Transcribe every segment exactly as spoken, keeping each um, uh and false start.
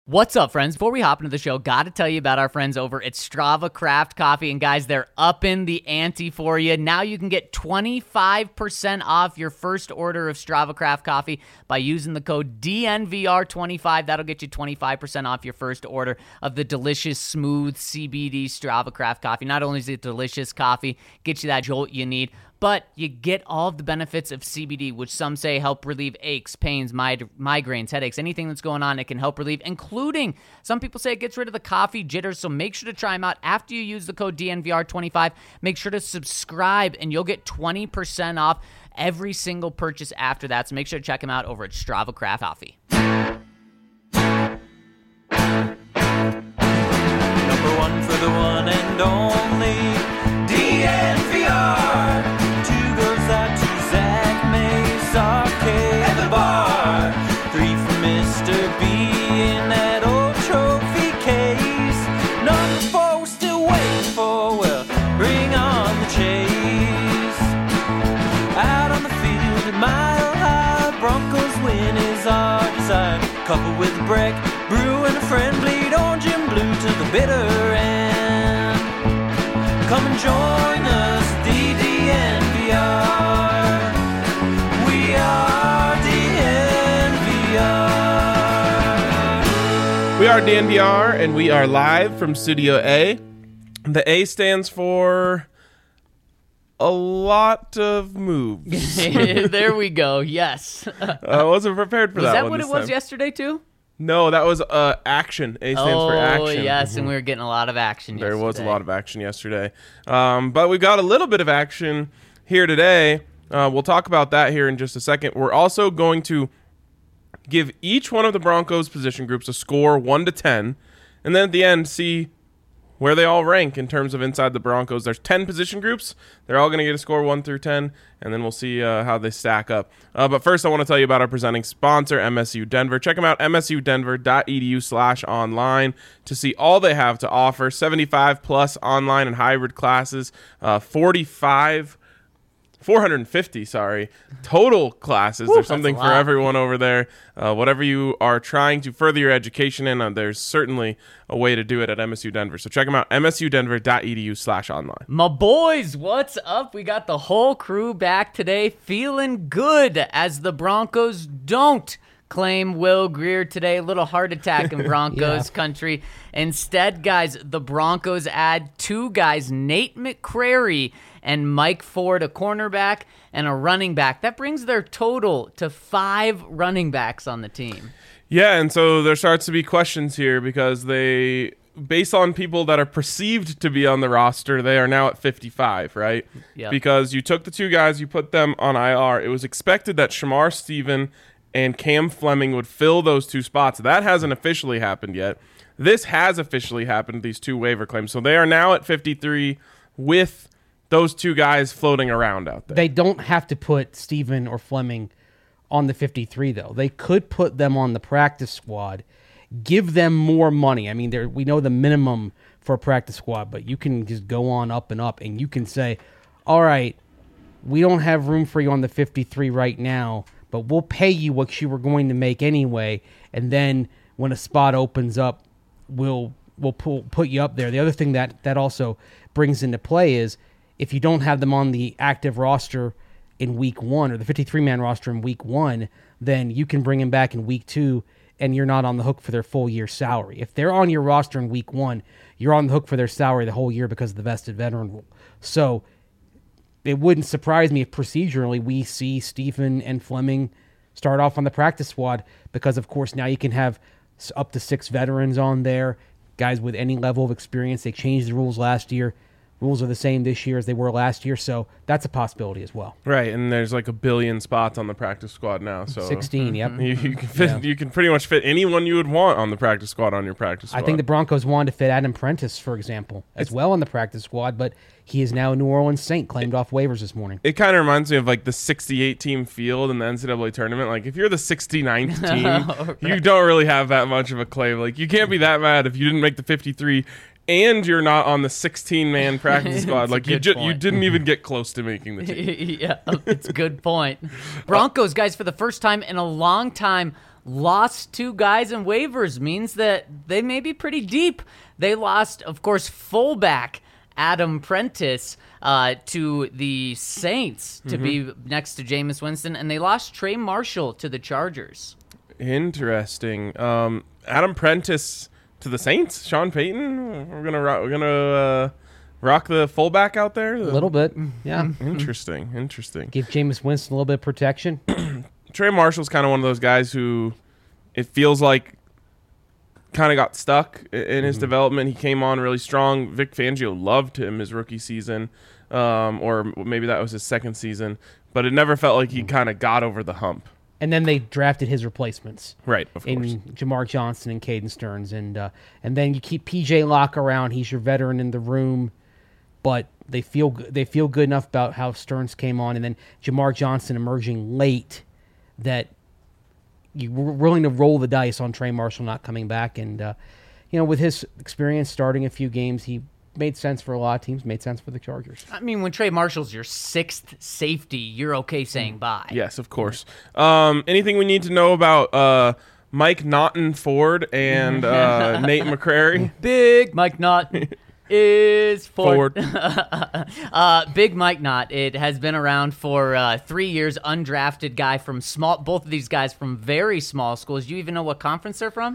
What's up, friends? Before we hop into the show, got to tell you about our friends over at Strava Craft Coffee. And guys, they're upping the ante for you. Now you can get twenty-five percent off your first order of Strava Craft Coffee by using the code D N V R twenty-five. That'll get you twenty-five percent off your first order of the delicious, smooth C B D Strava Craft Coffee. Not only is it delicious coffee, gets you that jolt you need, but you get all of the benefits of C B D, which some say help relieve aches, pains, mig- migraines, headaches, anything that's going on, it can help relieve, including some people say it gets rid of the coffee jitters. So make sure to try them out after you use the code D N V R twenty-five. Make sure to subscribe, and you'll get twenty percent off every single purchase after that. So make sure to check them out over at Strava Craft Coffee. Number one for the one and only D N V R. Two goes out to Zach Mace, Arcade, and the bar. Three for Mister B in that old trophy case. Number four we're still waiting for, well, bring on the chase. Out on the field at Mile High, Broncos win is our desire. Couple with a break, brew and a friend, bleed orange and blue to the bitter end. Come and join us, the D N V R. We are D N V R. We are D N V R, and we are live from Studio A. The A stands for a lot of moves. There we go. Yes. I wasn't prepared for Was that, that one what it this was time. yesterday, too? No, that was uh, action. A stands oh, for action. yes, and we were getting a lot of action There yesterday. was a lot of action yesterday. Um, but we got a little bit of action here today. Uh, we'll talk about that here in just a second. We're also going to give each one of the Broncos position groups a score one to ten, and then at the end see where they all rank in terms of inside the Broncos. There's ten position groups. They're all going to get a score one through ten, and then we'll see uh, how they stack up. Uh, but first, I want to tell you about our presenting sponsor, M S U Denver. Check them out, m s u denver dot e d u slash online to see all they have to offer. seventy-five plus online and hybrid classes, uh, forty-five four hundred fifty, sorry, total classes. Woo, there's something that's a for lot. everyone over there. Uh, whatever you are trying to further your education in, uh, there's certainly a way to do it at M S U Denver. So check them out, m s u denver dot e d u slash online. My boys, what's up? We got the whole crew back today, feeling good as the Broncos don't claim Will Grier today. A little heart attack in Broncos Yeah. country. Instead, guys, the Broncos add two guys, Nate McCrary and Mike Ford, a cornerback and a running back. That brings their total to five running backs on the team. Yeah, and so there starts to be questions here because they, based on people that are perceived to be on the roster, they are now at fifty-five, right? Yep. Because you took the two guys, you put them on I R. It was expected that Shamar Stephen and Cam Fleming would fill those two spots. That hasn't officially happened yet. This has officially happened, these two waiver claims. So they are now at fifty-three with those two guys floating around out there. They don't have to put Steven or Fleming on the fifty-three, though. They could put them on the practice squad, give them more money. I mean, they're- we know the minimum for a practice squad, but you can just go on up and up, and you can say, all right, we don't have room for you on the fifty-three right now, but we'll pay you what you were going to make anyway, and then when a spot opens up, we'll we'll pull, put you up there. The other thing that, that also brings into play is if you don't have them on the active roster in week one or the fifty-three man roster in week one, then you can bring them back in week two and you're not on the hook for their full year salary. If they're on your roster in week one, you're on the hook for their salary the whole year because of the vested veteran rule. So it wouldn't surprise me if procedurally we see Stephen and Fleming start off on the practice squad because, of course, now you can have s- up to six veterans on there, guys with any level of experience. They changed the rules last year. Rules are the same this year as they were last year, so that's a possibility as well. Right, and there's like a billion spots on the practice squad now. So sixteen, yep. You, you can fit, Yeah. you can pretty much fit anyone you would want on the practice squad on your practice squad. I think the Broncos wanted to fit Adam Prentice, for example, as well on the practice squad, but he is now a New Orleans Saint, claimed off waivers this morning. It kind of reminds me of like the sixty-eight team field in the N C double A tournament. Like if you're the sixty-ninth team, Right. you don't really have that much of a claim. Like you can't be that mad if you didn't make the fifty-three and you're not on the sixteen man practice squad. It's a Like you good ju- you point. didn't even get close to making the team. Yeah, it's a good point. Broncos, guys, for the first time in a long time, lost two guys in waivers means that they may be pretty deep. They lost, of course, fullback Adam Prentice uh, to the Saints to mm-hmm. be next to Jameis Winston, and they lost Trey Marshall to the Chargers. Interesting. Um, Adam Prentice to the Saints. Sean Payton. We're gonna rock, we're gonna uh, rock the fullback out there. A little bit, yeah. Interesting. Interesting. Give Jameis Winston a little bit of protection. Trey Marshall's kind of one of those guys who it feels like kind of got stuck in his mm-hmm. development. He came on really strong. Vic Fangio loved him his rookie season, um, or maybe that was his second season, but it never felt like he kind of got over the hump. And then they drafted his replacements. Right, of course. In Jamar Johnson and Caden Stearns. And uh, and then you keep P J Locke around. He's your veteran in the room. But they feel they feel good enough about how Stearns came on. And then Jamar Johnson emerging late that you were willing to roll the dice on Trey Marshall not coming back. And, uh, you know, with his experience starting a few games, he made sense for a lot of teams, made sense for the Chargers. I mean, when Trey Marshall's your sixth safety, you're okay saying bye. Yes, of course. Um, anything we need to know about uh, Mike Naughton Ford and uh, Nate McCrary? Big Mike Naughton is Ford. Ford. uh, Big Mike Knott. It has been around for uh, three years. Undrafted guy from small. Both of these guys from very small schools. Do you even know what conference they're from?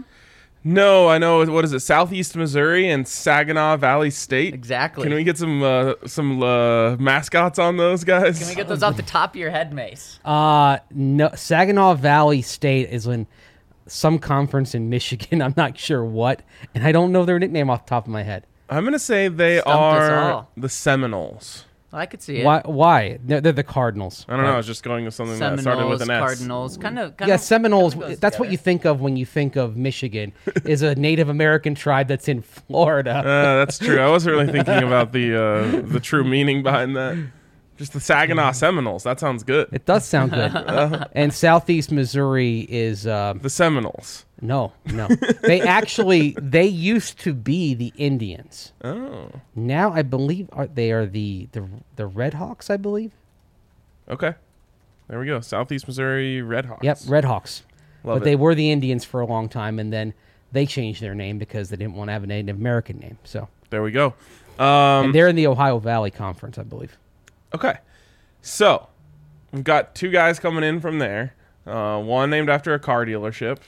No, I know. What is it? Southeast Missouri and Saginaw Valley State. Exactly. Can we get some uh, some uh, mascots on those guys? Can we get those off the top of your head, Mace? Uh no. Saginaw Valley State is in some conference in Michigan. I'm not sure what, and I don't know their nickname off the top of my head. I'm gonna say they Stumped us are all. the Seminoles. I could see it. Why? Why? They're, they're the Cardinals. I don't know. I was just going with something Seminoles, that started with an S. Cardinals, kind of. Yeah, Seminoles. That's what you think of when you think of Michigan. Is a Native American tribe that's in Florida. Uh, that's true. I wasn't really thinking about the uh, the true meaning behind that. Just the Saginaw Seminoles. That sounds good. It does sound good. And Southeast Missouri is uh, the Seminoles. No, no. They actually they used to be the Indians. Oh. Now I believe are they are the the the Red Hawks, I believe. Okay. There we go. Southeast Missouri Red Hawks. Yep, Red Hawks. Love but it. they were the Indians for a long time, and then they changed their name because they didn't want to have a Native American name. So there we go. Um, and they're in the Ohio Valley Conference, I believe. Okay. So we've got two guys coming in from there. Uh, one named after a car dealership,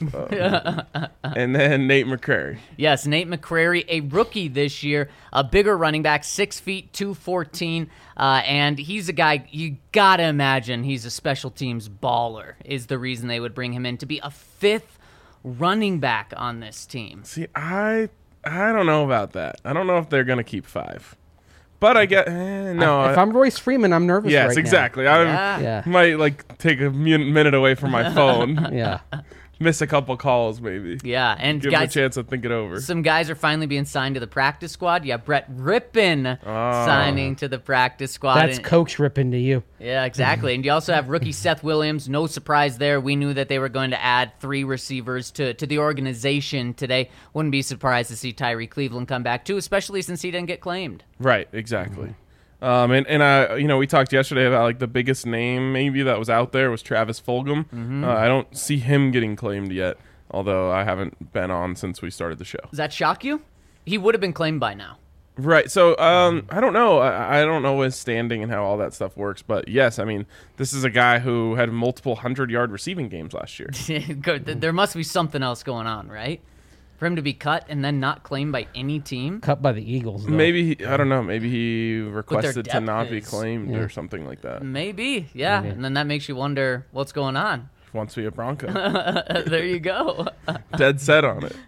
uh, and then Nate McCrary. Yes, Nate McCrary, a rookie this year, a bigger running back, six feet, two fourteen, uh, and he's a guy you gotta imagine he's a special teams baller. Is the reason they would bring him in to be a fifth running back on this team. See, I I don't know about that. I don't know if they're gonna keep five. But I get eh, no. I, if I'm Royce Freeman, I'm nervous. Yes, right exactly. Now. I Yeah. Yeah. might like take a min- minute away from my phone. Yeah. Miss a couple calls, maybe. Yeah, and Give guys, him a chance to think it over. some guys are finally being signed to the practice squad. You have Brett Rippin Oh. signing to the practice squad. That's And- Coach ripping to you. Yeah, exactly. And you also have rookie Seth Williams. No surprise there. We knew that they were going to add three receivers to, to the organization today. Wouldn't be surprised to see Tyree Cleveland come back too, especially since he didn't get claimed. Right, exactly. Um, and and I, you know, we talked yesterday about like the biggest name maybe that was out there was Travis Fulgham. Mm-hmm. Uh, I don't see him getting claimed yet, although I haven't been on since we started the show. Does that shock you? He would have been claimed by now. Right. So um, I don't know. I, I don't know his standing and how all that stuff works. But yes, I mean, this is a guy who had multiple hundred-yard receiving games last year. Good. There must be something else going on, right? For him to be cut and then not claimed by any team. Cut by the Eagles, though. Maybe he, I don't know. Maybe he requested to depth not be is. claimed Yeah. or something like that. Maybe, yeah. Maybe. And then that makes you wonder what's going on. Wants to be a Bronco. There you go. Dead set on it.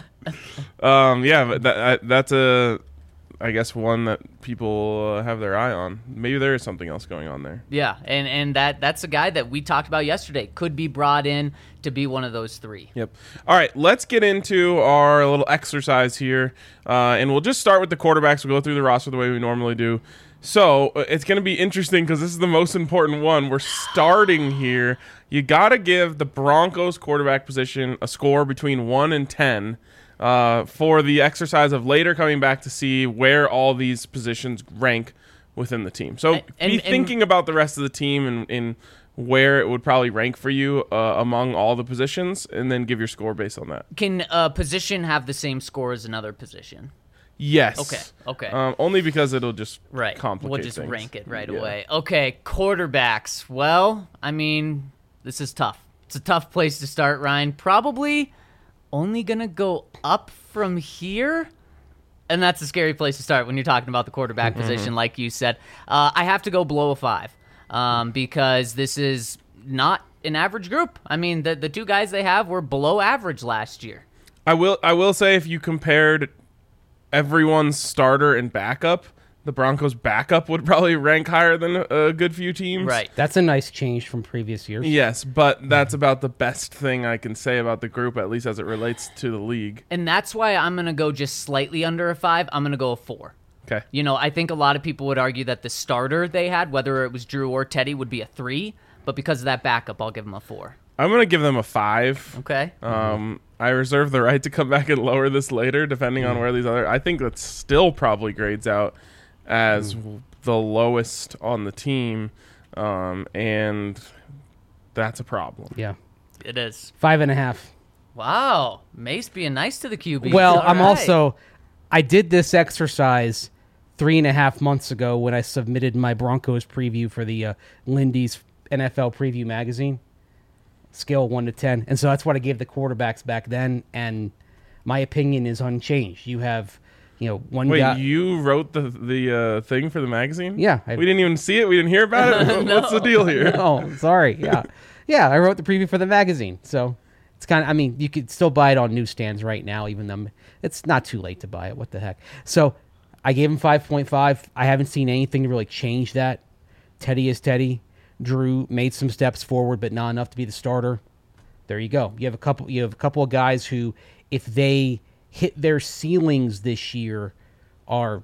Um, yeah, but that, I, that's a, I guess, one that people uh, have their eye on. Maybe there is something else going on there. Yeah, and, and that that's a guy that we talked about yesterday. Could be brought in to be one of those three. Yep. All right, let's get into our little exercise here, uh, and we'll just start with the quarterbacks. We'll go through the roster the way we normally do. So uh, it's going to be interesting because this is the most important one. We're starting here. You got to give the Broncos quarterback position a score between one and ten. Uh, for the exercise of later coming back to see where all these positions rank within the team. So And- be and- thinking about the rest of the team and, and where it would probably rank for you uh, among all the positions, and then give your score based on that. Can a position have the same score as another position? Yes. Okay, okay. Um, only because it'll just Right. complicate We'll just things. rank it right Yeah. away. Okay, quarterbacks. Well, I mean, this is tough. It's a tough place to start, Ryan. Probably only going to go up from here. And that's a scary place to start when you're talking about the quarterback Mm-hmm. position, like you said. Uh, I have to go below a five um, because this is not an average group. I mean, the, the two guys they have were below average last year. I will. I will say, if you compared everyone's starter and backup, the Broncos' backup would probably rank higher than a good few teams. Right. That's a nice change from previous years. Yes, but that's about the best thing I can say about the group, at least as it relates to the league. And that's why I'm going to go just slightly under a five. I'm going to go a four. Okay. You know, I think a lot of people would argue that the starter they had, whether it was Drew or Teddy, would be a three. But because of that backup, I'll give them a four. I'm gonna give them a five. Okay. Um, I reserve the right to come back and lower this later, depending on where these other. I think that still probably grades out as Mm. the lowest on the team, um, and that's a problem. Yeah. It is. Five and a half. Wow. Mace being nice to the Q B. Well, All I'm right. also, I did this exercise three and a half months ago when I submitted my Broncos preview for the uh, Lindy's N F L Preview magazine, scale one to ten, and so that's what I gave the quarterbacks back then. And my opinion is unchanged. You have, you know, one Wait, guy. you wrote the the uh, thing for the magazine? Yeah, I- we didn't even see it. We didn't hear about it. What- What's the deal here? Oh, sorry. Yeah, yeah. I wrote the preview for the magazine, so it's kind of. I mean, you could still buy it on newsstands right now, even though it's not too late to buy it. What the heck? So I gave him five point five. I haven't seen anything to really change that. Teddy is Teddy. Drew made some steps forward, but not enough to be the starter. There you go. You have a couple. You have a couple of guys who, if they hit their ceilings this year, are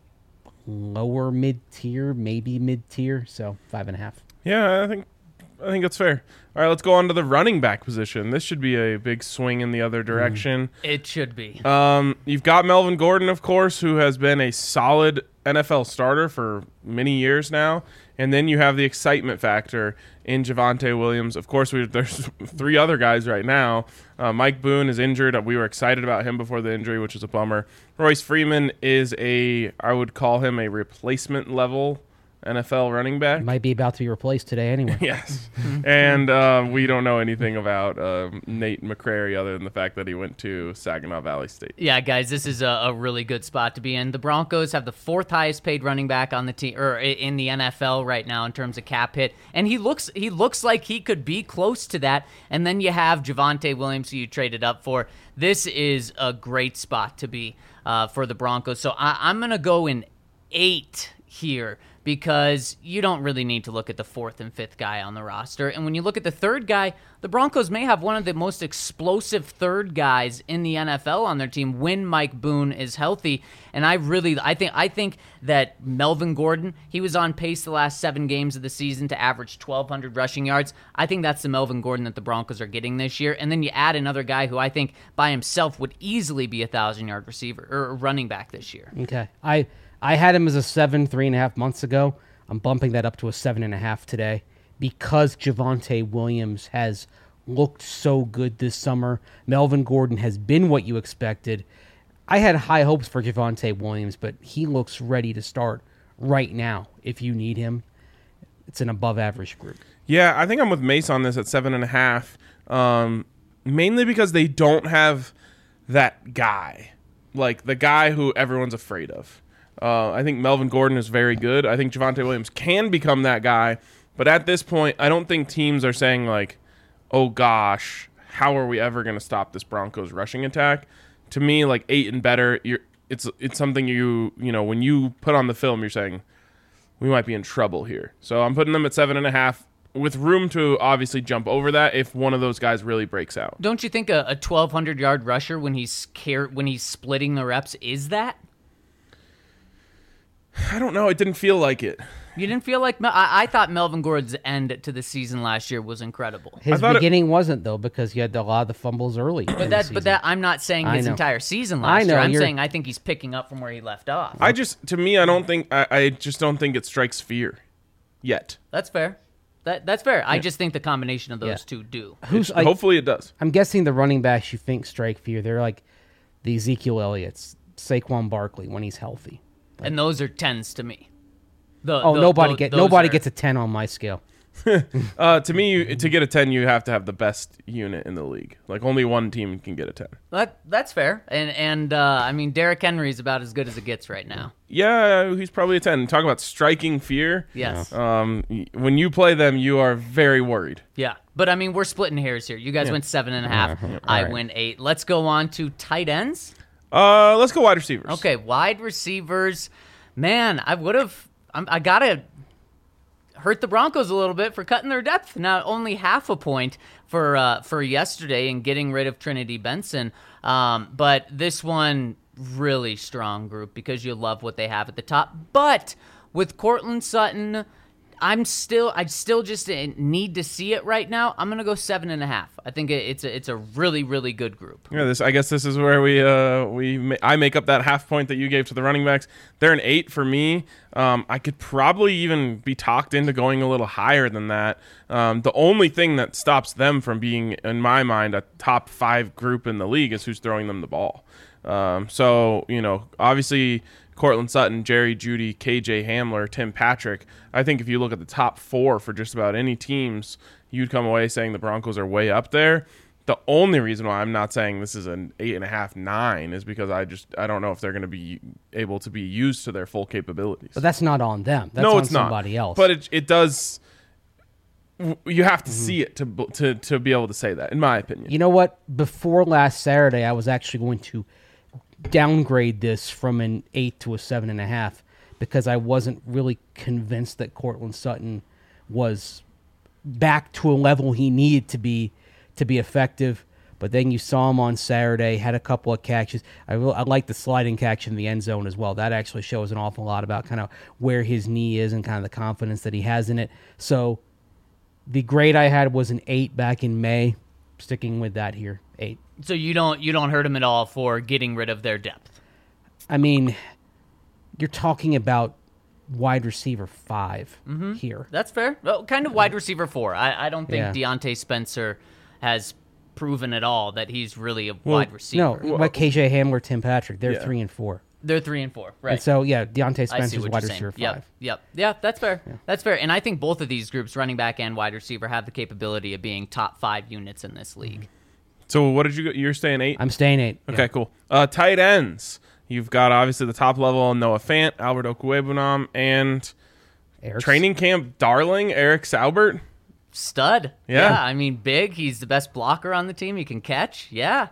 lower mid tier, maybe mid tier. So five and a half. Yeah, I think I think that's fair. All right, let's go on to the running back position. This should be a big swing in the other direction. It should be. Um, you've got Melvin Gordon, of course, who has been a solid N F L starter for many years now. And then you have the excitement factor in Javonte Williams. Of course, we, there's three other guys right now. Uh, Mike Boone is injured. We were excited about him before the injury, which is a bummer. Royce Freeman is a, I would call him a replacement level N F L running back. Might be about to be replaced today anyway. Yes. And uh, we don't know anything about uh, Nate McCrary other than the fact that he went to Saginaw Valley State. Yeah, guys, this is a, a really good spot to be in. The Broncos have the fourth highest paid running back on the team, or in the N F L right now in terms of cap hit, and he looks he looks like he could be close to that. And then you have Javonte Williams, who you traded up for. This is a great spot to be uh, for the Broncos. So I, I'm gonna go in eight here, because you don't really need to look at the fourth and fifth guy on the roster. And when you look at the third guy, the Broncos may have one of the most explosive third guys in the N F L on their team when Mike Boone is healthy. And I really, I think, I think that Melvin Gordon, he was on pace the last seven games of the season to average twelve hundred rushing yards. I think that's the Melvin Gordon that the Broncos are getting this year. And then you add another guy who I think by himself would easily be a thousand yard receiver or running back this year. Okay. I I had him as a seven three and a half months ago. I'm bumping that up to a seven and a half today because Javonte Williams has looked so good this summer. Melvin Gordon has been what you expected. I had high hopes for Javonte Williams, but he looks ready to start right now if you need him. It's an above average group. Yeah, I think I'm with Mace on this at seven and a half, um, mainly because they don't have that guy, like the guy who everyone's afraid of. Uh, I think Melvin Gordon is very good. I think Javonte Williams can become that guy, but at this point, I don't think teams are saying like, "Oh gosh, how are we ever going to stop this Broncos rushing attack?" To me, like eight and better, you're, it's it's something you you know when you put on the film, you're saying we might be in trouble here. So I'm putting them at seven and a half, with room to obviously jump over that if one of those guys really breaks out. Don't you think a, a twelve hundred yard rusher when he's care, when he's splitting the reps is that? I don't know. It didn't feel like it. You didn't feel like Mel- I, I thought Melvin Gordon's end to the season last year was incredible. His thought it- beginning wasn't though because he had a lot of the fumbles early. But that, but that, I'm not saying I his know. entire season I last know, year. I'm you're- saying I think he's picking up from where he left off. I just, to me, I don't think, I, I just don't think it strikes fear yet. That's fair. that that's fair. I just think the combination of those Yeah. two do. Who's like, Hopefully it does. I'm guessing the running backs you think strike fear. They're like the Ezekiel Elliott's, Saquon Barkley when he's healthy. And those are tens to me. The, Oh, the- nobody tho- get those nobody are- gets a ten on my scale. Uh, to me, you, to get a ten, you have to have the best unit in the league. Like only one team can get a ten. That, that's fair. And, and uh, I mean, Derrick Henry is about as good as it gets right now. Yeah, he's probably a ten. Talk about striking fear. Yes. Um, y- when you play them, you are very worried. Yeah. But, I mean, we're splitting hairs here. You guys went seven and a half. Uh-huh. I All right. went eight. Let's go on to tight ends. Uh, let's go wide receivers. Okay, wide receivers. Man, I would have. I got to hurt the Broncos a little bit for cutting their depth. Now, only half a point for uh, for yesterday and getting rid of Trinity Benson. Um, but this one, really strong group because you love what they have at the top. But with Cortland Sutton, I'm still, I still just need to see it right now. I'm gonna go seven and a half. I think it- it's a, it's a really, really good group. Yeah, this. I guess this is where we uh we ma- I make up that half point that you gave to the running backs. They're an eight for me. Um, I could probably even be talked into going a little higher than that. Um, the only thing that stops them from being, in my mind, a top five group in the league is who's throwing them the ball. Um, so you know, obviously. Cortland Sutton, Jerry Jeudy, K J Hamler, Tim Patrick. I think if you look at the top four for just about any teams, you'd come away saying the Broncos are way up there. The only reason why I'm not saying this is an eight and a half, nine is because I just I don't know if they're going to be able to be used to their full capabilities. But that's not on them. That's no, on it's not. somebody else. But it it does. w- You have to see it to b- to to be able to say that, in my opinion. You know what? Before last Saturday, I was actually going to downgrade this from an eight to a seven and a half because I wasn't really convinced that Cortland Sutton was back to a level he needed to be to be effective. But then you saw him on Saturday, had a couple of catches. I, will, I like the sliding catch in the end zone as well. That actually shows an awful lot about kind of where his knee is and kind of the confidence that he has in it. So the grade I had was an eight back in May. Sticking with that here, eight. So you don't you don't hurt them at all for getting rid of their depth. I mean, you're talking about wide receiver five here. That's fair. Well, kind of wide receiver four. I, I don't think Yeah. Deontay Spencer has proven at all that he's really a wide No, receiver. like K J Hamler, Tim Patrick, they're Yeah. three and four. They're three and four, right? And so, yeah, Deontay I see Spencer's what wide you're receiver saying. Yep, five. yep, yeah. That's fair. That's fair. And I think both of these groups, running back and wide receiver, have the capability of being top five units in this league. So what did you? You're saying eight? I'm staying eight. Okay, cool. Uh, tight ends. You've got obviously the top level Noah Fant, Albert Okwuegbunam, and Eric's- training camp darling Eric Saubert. Stud. Yeah. I mean, big. He's the best blocker on the team. He can catch. Yeah.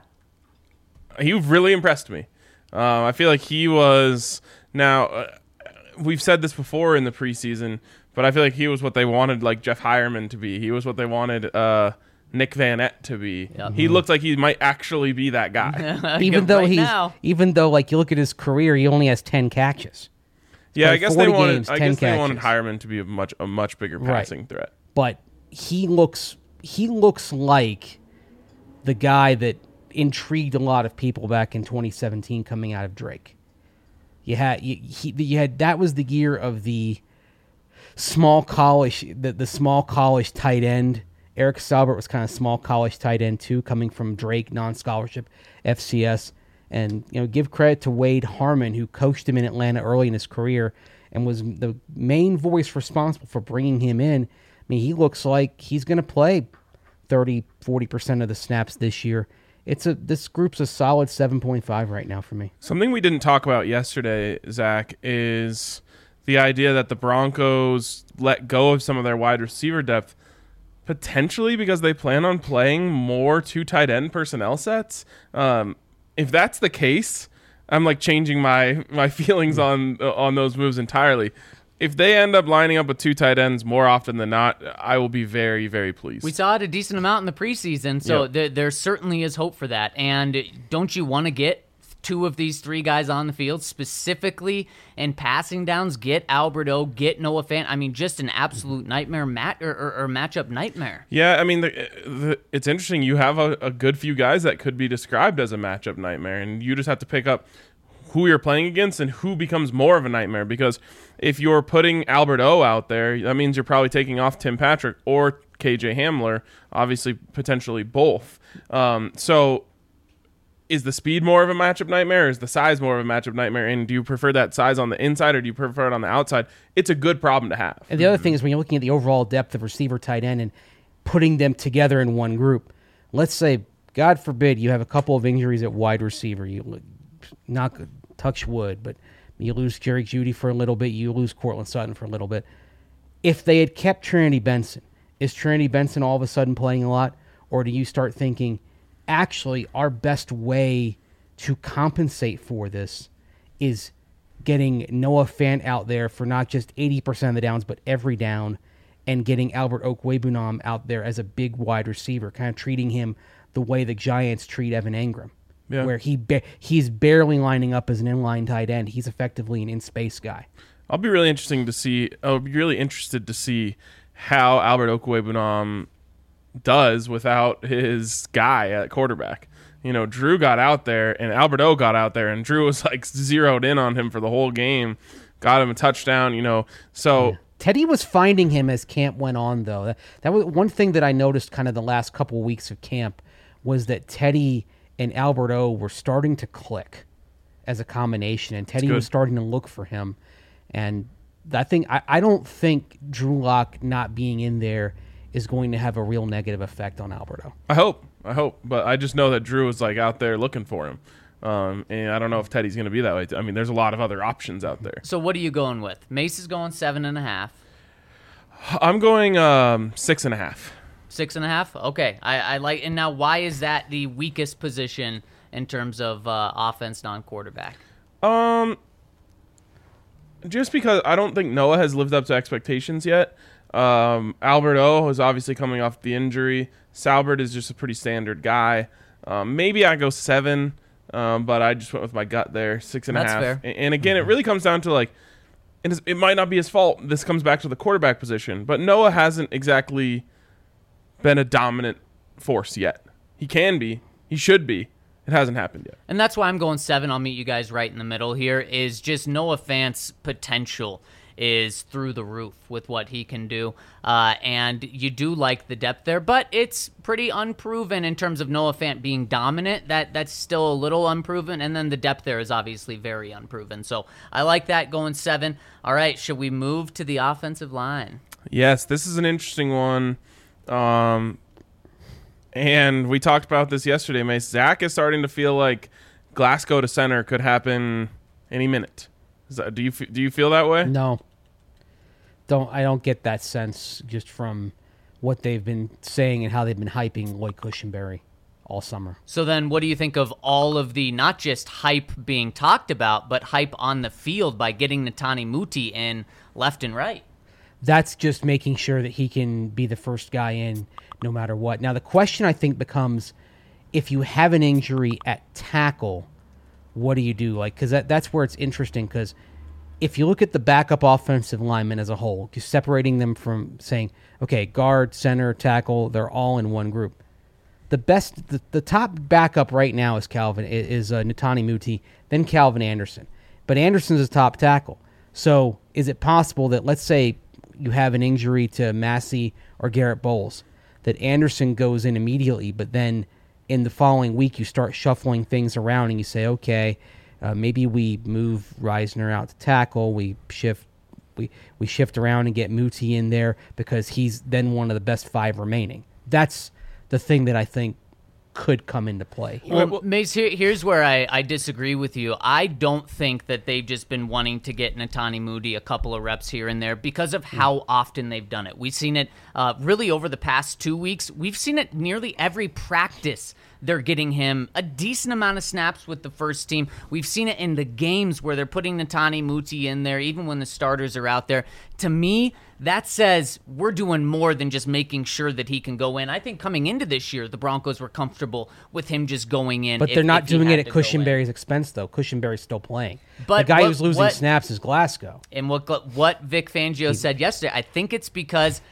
He really impressed me. Um, I feel like he was. Now, uh, we've said this before in the preseason, but I feel like he was what they wanted, like Jeff Hireman to be. He was what they wanted uh, Nick Van Ette to be. Yep. He looked like he might actually be that guy. Even Good though right he's, now. even though like you look at his career, he only has ten catches. yeah, I played guess they forty wanted. games, I ten guess they wanted catches. Hireman to be a much a much bigger Right. passing threat. But he looks he looks like the guy that intrigued a lot of people back in twenty seventeen coming out of Drake. You had you, he, you had that was the year of the small college the, the small college tight end. Eric Saubert was kind of small college tight end too, coming from Drake non-scholarship F C S. And you know, give credit to Wade Harmon, who coached him in Atlanta early in his career and was the main voice responsible for bringing him in. I mean, he looks like he's going to play thirty, forty percent of the snaps this year. It's a this group's a solid seven point five right now for me. Something we didn't talk about yesterday, Zach, is the idea that the Broncos let go of some of their wide receiver depth, potentially because they plan on playing more two tight end personnel sets. Um, if that's the case, I'm like changing my my feelings on on those moves entirely. If they end up lining up with two tight ends more often than not, I will be very, very pleased. We saw it a decent amount in the preseason, so Yep. there, there certainly is hope for that. And don't you want to get two of these three guys on the field, specifically in passing downs? Get Albert O, get Noah Fant. I mean, just an absolute nightmare mat or, or, or matchup nightmare. Yeah, I mean, the, the, it's interesting. You have a, a good few guys that could be described as a matchup nightmare, and you just have to pick up who you're playing against and who becomes more of a nightmare. Because if you're putting Albert O out there, that means you're probably taking off Tim Patrick or K J Hamler, obviously potentially both. Um, so is the speed more of a matchup nightmare, or is the size more of a matchup nightmare? And do you prefer that size on the inside, or do you prefer it on the outside? It's a good problem to have. And the other thing is when you're looking at the overall depth of receiver, tight end, and putting them together in one group, let's say, God forbid, you have a couple of injuries at wide receiver. You not touch wood, but you lose Jerry Jeudy for a little bit. You lose Cortland Sutton for a little bit. If they had kept Trinity Benson, is Trinity Benson all of a sudden playing a lot? Or do you start thinking, actually, our best way to compensate for this is getting Noah Fant out there for not just eighty percent of the downs, but every down, and getting Albert Okwuegbunam out there as a big wide receiver, kind of treating him the way the Giants treat Evan Engram, yeah. where he ba- he's barely lining up as an inline tight end. He's effectively an in-space guy. I'll be really interesting to see. I'll be really interested to see how Albert Okwuegbunam does without his guy at quarterback. You know, Drew got out there and Albert O got out there, and Drew was like zeroed in on him for the whole game, got him a touchdown. You know, so. Yeah. Teddy was finding him as camp went on, though. That, that was one thing that I noticed kind of the last couple of weeks of camp was that Teddy and Albert O were starting to click as a combination, and Teddy was starting to look for him. And that thing, I, I don't think Drew Lock not being in there is going to have a real negative effect on Albert O. I hope. I hope. But I just know that Drew is like out there looking for him. Um, and I don't know if Teddy's going to be that way. I mean, there's a lot of other options out there. So what are you going with? Mace is going seven and a half. I'm going um, six and a half. Six and a half? Okay. I, I like. And now, why is that the weakest position in terms of uh, offense, non-quarterback? Um, just because I don't think Noah has lived up to expectations yet. Um, Albert O is obviously coming off the injury. Salbert is just a pretty standard guy. Um, maybe I go seven, um, but I just went with my gut there, six and a That's half. fair. And, and again, mm-hmm. it really comes down to like, and it might not be his fault. This comes back to the quarterback position, but Noah hasn't exactly been a dominant force yet. He can be. He should be. It hasn't happened yet. And that's why I'm going seven. I'll meet you guys right in the middle here. Is just Noah Fant's potential is through the roof with what he can do. Uh, and you do like the depth there, but it's pretty unproven in terms of Noah Fant being dominant. That That's still a little unproven. And then the depth there is obviously very unproven. So I like that going seven. All right, should we move to the offensive line? Yes, this is an interesting one. Um, and we talked about this yesterday, Mace. Zach is starting to feel like Glasgow to center could happen any minute. Is that, do you do you feel that way? No. Don't I don't get that sense just from what they've been saying and how they've been hyping Lloyd Cushenberry all summer. So then what do you think of all of the, not just hype being talked about, but hype on the field by getting Netani Muti in left and right? That's just making sure that he can be the first guy in no matter what. Now, the question I think becomes, if you have an injury at tackle, what do you do? Like, because that, that's where it's interesting, because if you look at the backup offensive linemen as a whole, just separating them from saying, okay, guard, center, tackle, they're all in one group. The best, the, the top backup right now is Calvin, is uh, Netani Muti, then Calvin Anderson. But Anderson's a top tackle. So is it possible that, let's say, you have an injury to Massey or Garrett Bowles, that Anderson goes in immediately, but then in the following week you start shuffling things around and you say, okay, uh, maybe we move Reisner out to tackle, we shift we, we shift around and get Muti in there because he's then one of the best five remaining. That's the thing that I think could come into play. Well, Mace, here, here's where I, I disagree with you. I don't think that they've just been wanting to get Netani Muti a couple of reps here and there because of how often they've done it. We've seen it uh, really over the past two weeks. We've seen it nearly every practice. They're getting him a decent amount of snaps with the first team. We've seen it in the games where they're putting Netani Muti in there, even when the starters are out there. To me, that says we're doing more than just making sure that he can go in. I think coming into this year, the Broncos were comfortable with him just going in. But if, they're not if he doing had it at to go in. Cushenberry's expense, though. Cushenberry's still playing. But the guy what- who's losing what- snaps is Glasgow. And what what Vic Fangio said yesterday, I think it's because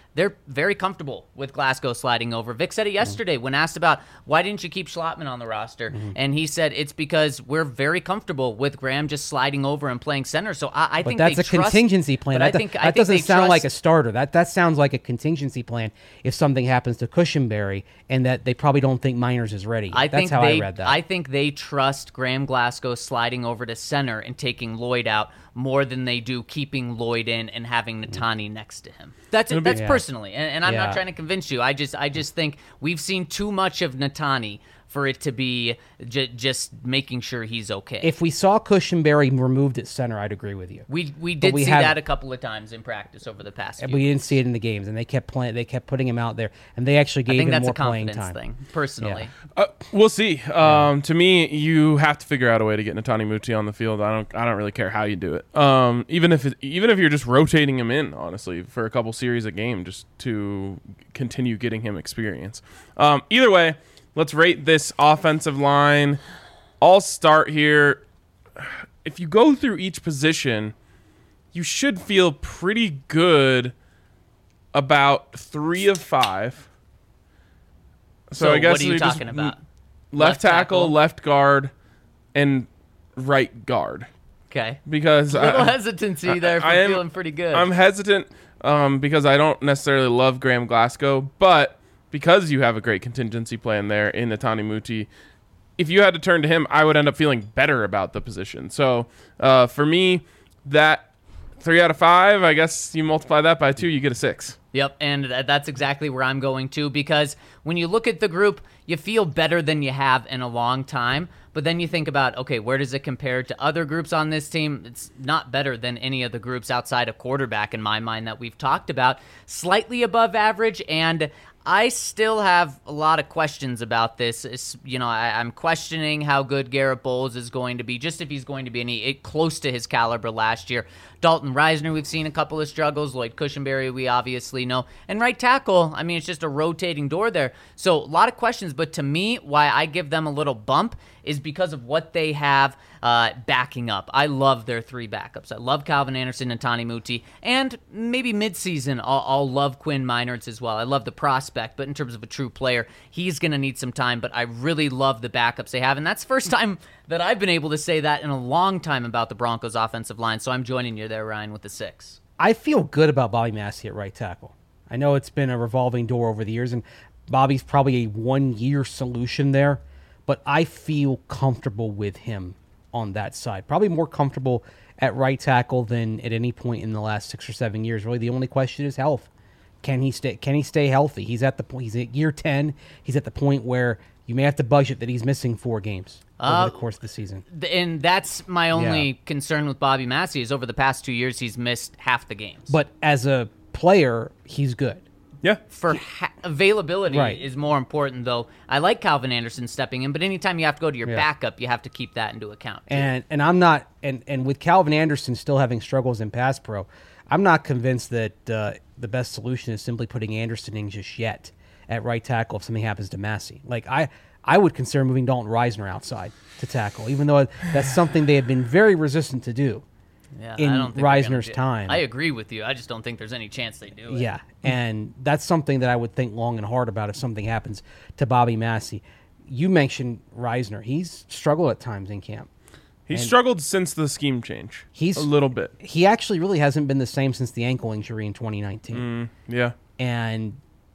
they're very comfortable with Glasgow sliding over. Vic said it yesterday when asked about why didn't you keep Schlotman on the roster, mm-hmm. and he said it's because we're very comfortable with Graham just sliding over and playing center. So I, I but think that's they a trust, contingency plan. That, I think, that I think doesn't they sound trust, like a starter. That that sounds like a contingency plan if something happens to Cushenberry, and that they probably don't think Miners is ready. I That's think how they, I read that. I think they trust Graham Glasgow sliding over to center and taking Lloyd out more than they do keeping Lloyd in and having Natani next to him. That's it. That's yeah. personally, and, and I'm Yeah. not trying to convince you. I just, I just think we've seen too much of Natani for it to be j- just making sure he's okay. If we saw Cushenberry removed at center, I'd agree with you. we we did we see have- that a couple of times in practice over the past. And few we weeks. didn't see it in the games, and they kept playing. They kept putting him out there, and they actually I gave think him that's more a playing confidence time. thing, personally. Yeah. Uh, we'll see. Um, to me, you have to figure out a way to get Natani Muti on the field. I don't. I don't really care how you do it. Um, even if it, even if you're just rotating him in, honestly, for a couple series a game, just to continue getting him experience. Um, either way, let's rate this offensive line. I'll start here. If you go through each position, you should feel pretty good about three of five. So, So I guess what are you we just- talking about? Left, Left tackle, tackle? left guard, and right guard. Okay. Because A little I, hesitancy there for I am- feeling pretty good. I'm hesitant um, because I don't necessarily love Graham Glasgow, but because you have a great contingency plan there in Natani Muti, if you had to turn to him, I would end up feeling better about the position. So uh, for me, that three out of five, I guess you multiply that by two, you get a six. Yep, and th- that's exactly where I'm going to, because when you look at the group, you feel better than you have in a long time, but then you think about, okay, where does it compare to other groups on this team? It's not better than any of the groups outside of quarterback in my mind that we've talked about. Slightly above average, and I still have a lot of questions about this. It's, you know, I, I'm questioning how good Garrett Bowles is going to be, just if he's going to be any close to his caliber last year. Dalton Reisner, we've seen a couple of struggles. Lloyd Cushenberry, we obviously know. And right tackle, I mean, it's just a rotating door there. So a lot of questions, but to me, why I give them a little bump is because of what they have uh, backing up. I love their three backups. I love Calvin Anderson and Natani Muti, and maybe midseason I'll, I'll love Quinn Meinertz as well. I love the prospect, but in terms of a true player, he's going to need some time, but I really love the backups they have, and that's the first time that I've been able to say that in a long time about the Broncos offensive line, so I'm joining you there, Ryan, with the six. I feel good about Bobby Massey at right tackle. I know it's been a revolving door over the years, and Bobby's probably a one-year solution there, but I feel comfortable with him on that side. Probably more comfortable at right tackle than at any point in the last six or seven years. Really, the only question is health. Can he stay? Can he stay healthy? He's at the point. He's at year ten. He's at the point where you may have to budget that he's missing four games Uh, over the course of the season. And that's my only Yeah. concern with Bobby Massey is over the past two years he's missed half the games. But as a player, he's good. Yeah. For ha- availability Right. is more important, though. I like Calvin Anderson stepping in, but anytime you have to go to your Yeah. backup, you have to keep that into account. too. And and I'm not and and with Calvin Anderson still having struggles in pass pro, I'm not convinced that uh, the best solution is simply putting Anderson in just yet at right tackle if something happens to Massey. Like I I would consider moving Dalton Reisner outside to tackle, even though that's something they have been very resistant to do. yeah, in I don't think they're gonna Reisner's do it. time. I agree with you. I just don't think there's any chance they do it. Yeah, and that's something that I would think long and hard about if something happens to Bobby Massey. You mentioned Reisner; he's struggled at times in camp. He And- struggled since the scheme change. He's- a little bit. He actually really hasn't been the same since the ankle injury in twenty nineteen. Mm, yeah. And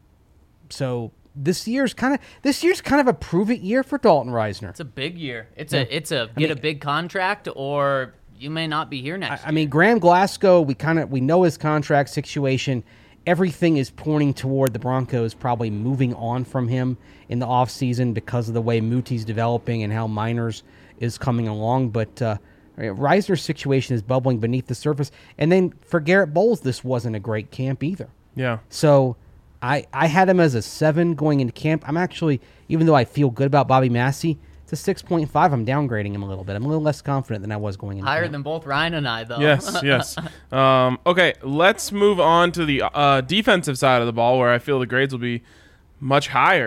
so this year's kind of this year's kind of a prove it year for Dalton Reisner. It's a big year. It's a it's a get a big contract or you may not be here next I mean, Graham Glasgow, we kind of we know his contract situation. Everything is pointing toward the Broncos probably moving on from him in the offseason because of the way Muti's developing and how Miners is coming along. But uh, Reisner's situation is bubbling beneath the surface. And then for Garrett Bowles, this wasn't a great camp either. Yeah. So I I had him as a seven going into camp. I'm actually, even though I feel good about Bobby Massey, it's a six point five. I'm downgrading him a little bit. I'm a little less confident than I was going into Higher camp. than both Ryan and I, though. Yes, yes. Um, okay, let's move on to the uh, defensive side of the ball where I feel the grades will be much higher.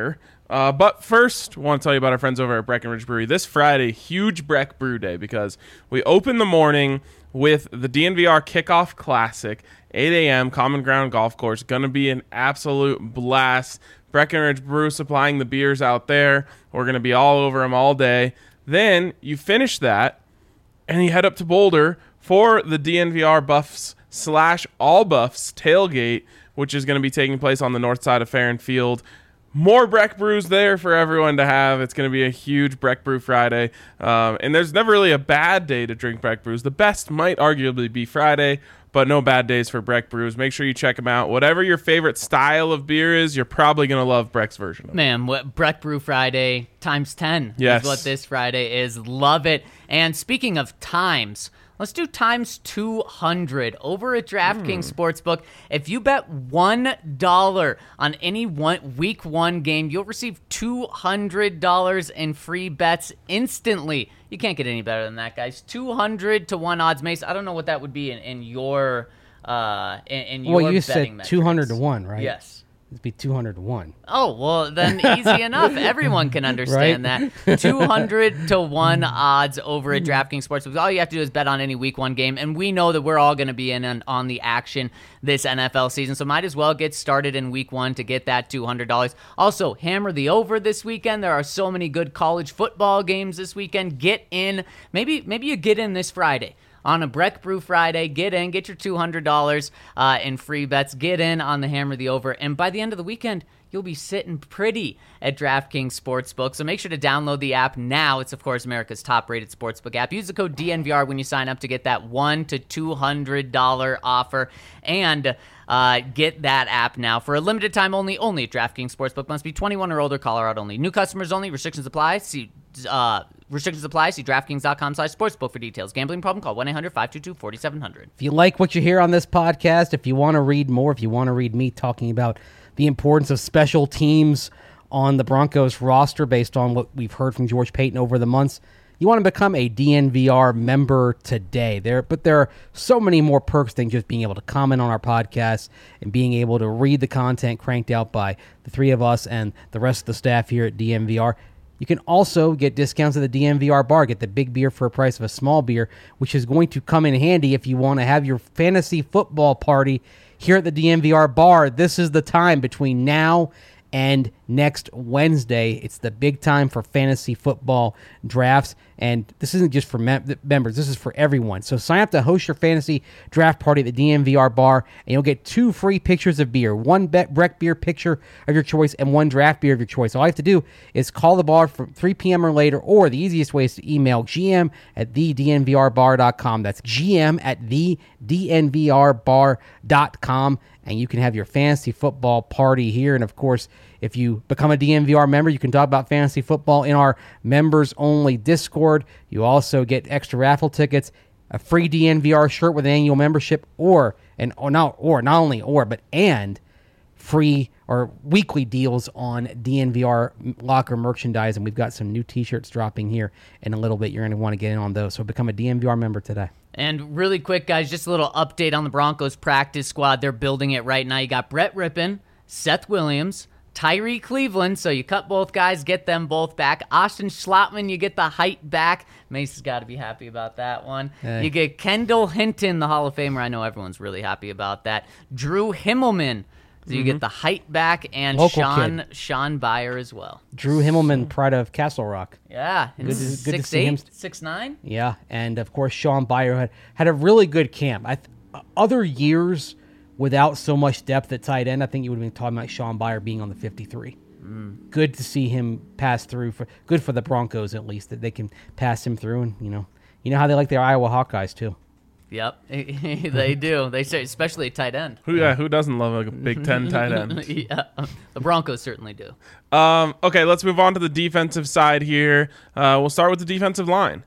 Uh, but first, I want to tell you about our friends over at Breckenridge Brewery. This Friday, huge Breck Brew Day, because we open the morning with the D N V R Kickoff Classic, eight a.m., Common Ground Golf Course. Going to be an absolute blast. Breckenridge Brew supplying the beers out there. We're going to be all over them all day. Then you finish that, and you head up to Boulder for the D N V R Buffs slash All Buffs tailgate, which is going to be taking place on the north side of Farron Field. More Breck Brews there for everyone to have. It's going to be a huge Breck Brew Friday. Um, and there's never really a bad day to drink Breck Brews. The best might arguably be Friday, but no bad days for Breck Brews. Make sure you check them out. Whatever your favorite style of beer is, you're probably going to love Breck's version of it. Man, what Breck Brew Friday times ten Yes. is what this Friday is. Love it. And speaking of times, let's do times two hundred over at DraftKings Sportsbook. If you bet one dollar on any one week one game, you'll receive two hundred dollars in free bets instantly. You can't get any better than that, guys. two hundred to one odds. Mace, I don't know what that would be in, in your uh in, in your Well, you betting said two hundred to metrics. one, right? Yes. It'd be two hundred to one. Oh, well, then easy enough. Everyone can understand that. two hundred to one odds over at DraftKings Sportsbook. All you have to do is bet on any week one game, and we know that we're all going to be in on, on the action this N F L season, so might as well get started in week one to get that two hundred dollars. Also, hammer the over this weekend. There are so many good college football games this weekend. Get in. Maybe, maybe you get in this Friday. On a Breck Brew Friday, get in, get your two hundred dollars uh, in free bets, get in on the Hammer the Over, and by the end of the weekend, you'll be sitting pretty at DraftKings Sportsbook. So make sure to download the app now. It's, of course, America's top-rated sportsbook app. Use the code D N V R when you sign up to get that one hundred to two hundred dollars offer, and uh, get that app now for a limited time only, only at DraftKings Sportsbook. Must be twenty-one or older, Colorado only. New customers only. Restrictions apply. See uh, Restrictions apply. See DraftKings.com slash sportsbook for details. Gambling problem? Call one eight hundred five two two four seven zero zero. If you like what you hear on this podcast, if you want to read more, if you want to read me talking about the importance of special teams on the Broncos roster based on what we've heard from George Payton over the months, you want to become a D N V R member today. There, but there are so many more perks than just being able to comment on our podcast and being able to read the content cranked out by the three of us and the rest of the staff here at D N V R. You can also get discounts at the D N V R bar. Get the big beer for a price of a small beer, which is going to come in handy if you want to have your fantasy football party here at the D N V R bar. This is the time between now and next Wednesday. It's the big time for fantasy football drafts, and this isn't just for mem- members. This is for everyone. So sign up to host your fantasy draft party at the D N V R bar, and you'll get two free pictures of beer, one Bet Breck beer picture of your choice and one draft beer of your choice. All you have to do is call the bar from three p.m. or later, or the easiest way is to email gm at the d n v r bar dot com. That's gm at the d n v r bar dot com, and you can have your fantasy football party here. And, of course, if you become a D N V R member, you can talk about fantasy football in our members-only Discord. You also get extra raffle tickets, a free D N V R shirt with an annual membership, or, and or not, or not only or, but and free or weekly deals on D N V R locker merchandise. And we've got some new T-shirts dropping here in a little bit. You're going to want to get in on those. So become a D N V R member today. And really quick, guys, just a little update on the Broncos practice squad. They're building it right now. You got Brett Rippon, Seth Williams, Tyree Cleveland, so you cut both guys, get them both back. Austin Schlottman, you get the height back. Mace has got to be happy about that one. Hey. You get Kendall Hinton, the Hall of Famer. I know everyone's really happy about that. Drew Himmelman, so you get the height back, and Local Sean kid. Sean Byer as well. Drew Himmelman, pride of Castle Rock. Yeah, and Good to- good to six see him. eight, six nine. Yeah, and of course, Sean Byer had, had a really good camp. I th- other years without so much depth at tight end, I think you would have been talking about Sean Byer being on the fifty-three. Mm. Good to see him pass through. For good for the Broncos, at least, that they can pass him through. And you know, you know how they like their Iowa Hawkeyes too. Yep, they do. They say, especially at tight end. Who, yeah, who doesn't love a Big Ten tight end? Yeah, the Broncos certainly do. Um, okay, let's move on to the defensive side here. Uh, we'll start with the defensive line.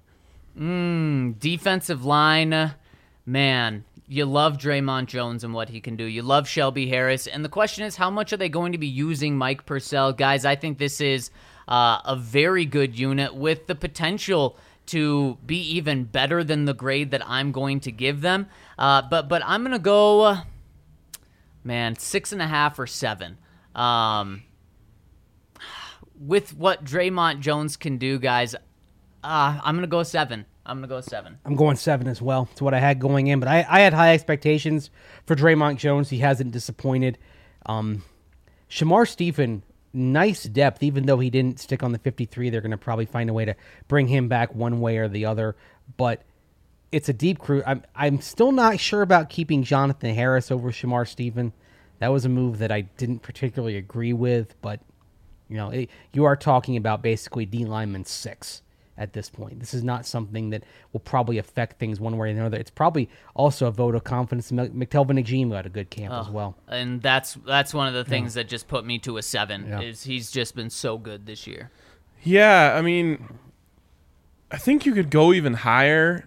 Mm, defensive line, man, you love Draymond Jones and what he can do. You love Shelby Harris. And the question is, how much are they going to be using Mike Purcell? Guys, I think this is uh, a very good unit with the potential to be even better than the grade that I'm going to give them. Uh, but but I'm going to go, uh, man, six and a half or seven. Um, with what Draymond Jones can do, guys, uh, I'm going to go seven. I'm going to go seven. I'm going seven as well. It's what I had going in, but I, I had high expectations for Draymond Jones. He hasn't disappointed. Um, Shamar Stephen, nice depth, even though he didn't stick on the fifty-three. They're going to probably find a way to bring him back one way or the other, but it's a deep crew. I'm, I'm still not sure about keeping Jonathan Harris over Shamar Stephen. That was a move that I didn't particularly agree with, but you know, it, you are talking about basically D lineman six at this point. This is not something that will probably affect things one way or another. It's probably also a vote of confidence. McTelvin Agim had a good camp Oh, as well. And that's that's one of the things yeah. that just put me to a seven, yeah. is he's just been so good this year. Yeah, I mean, I think you could go even higher,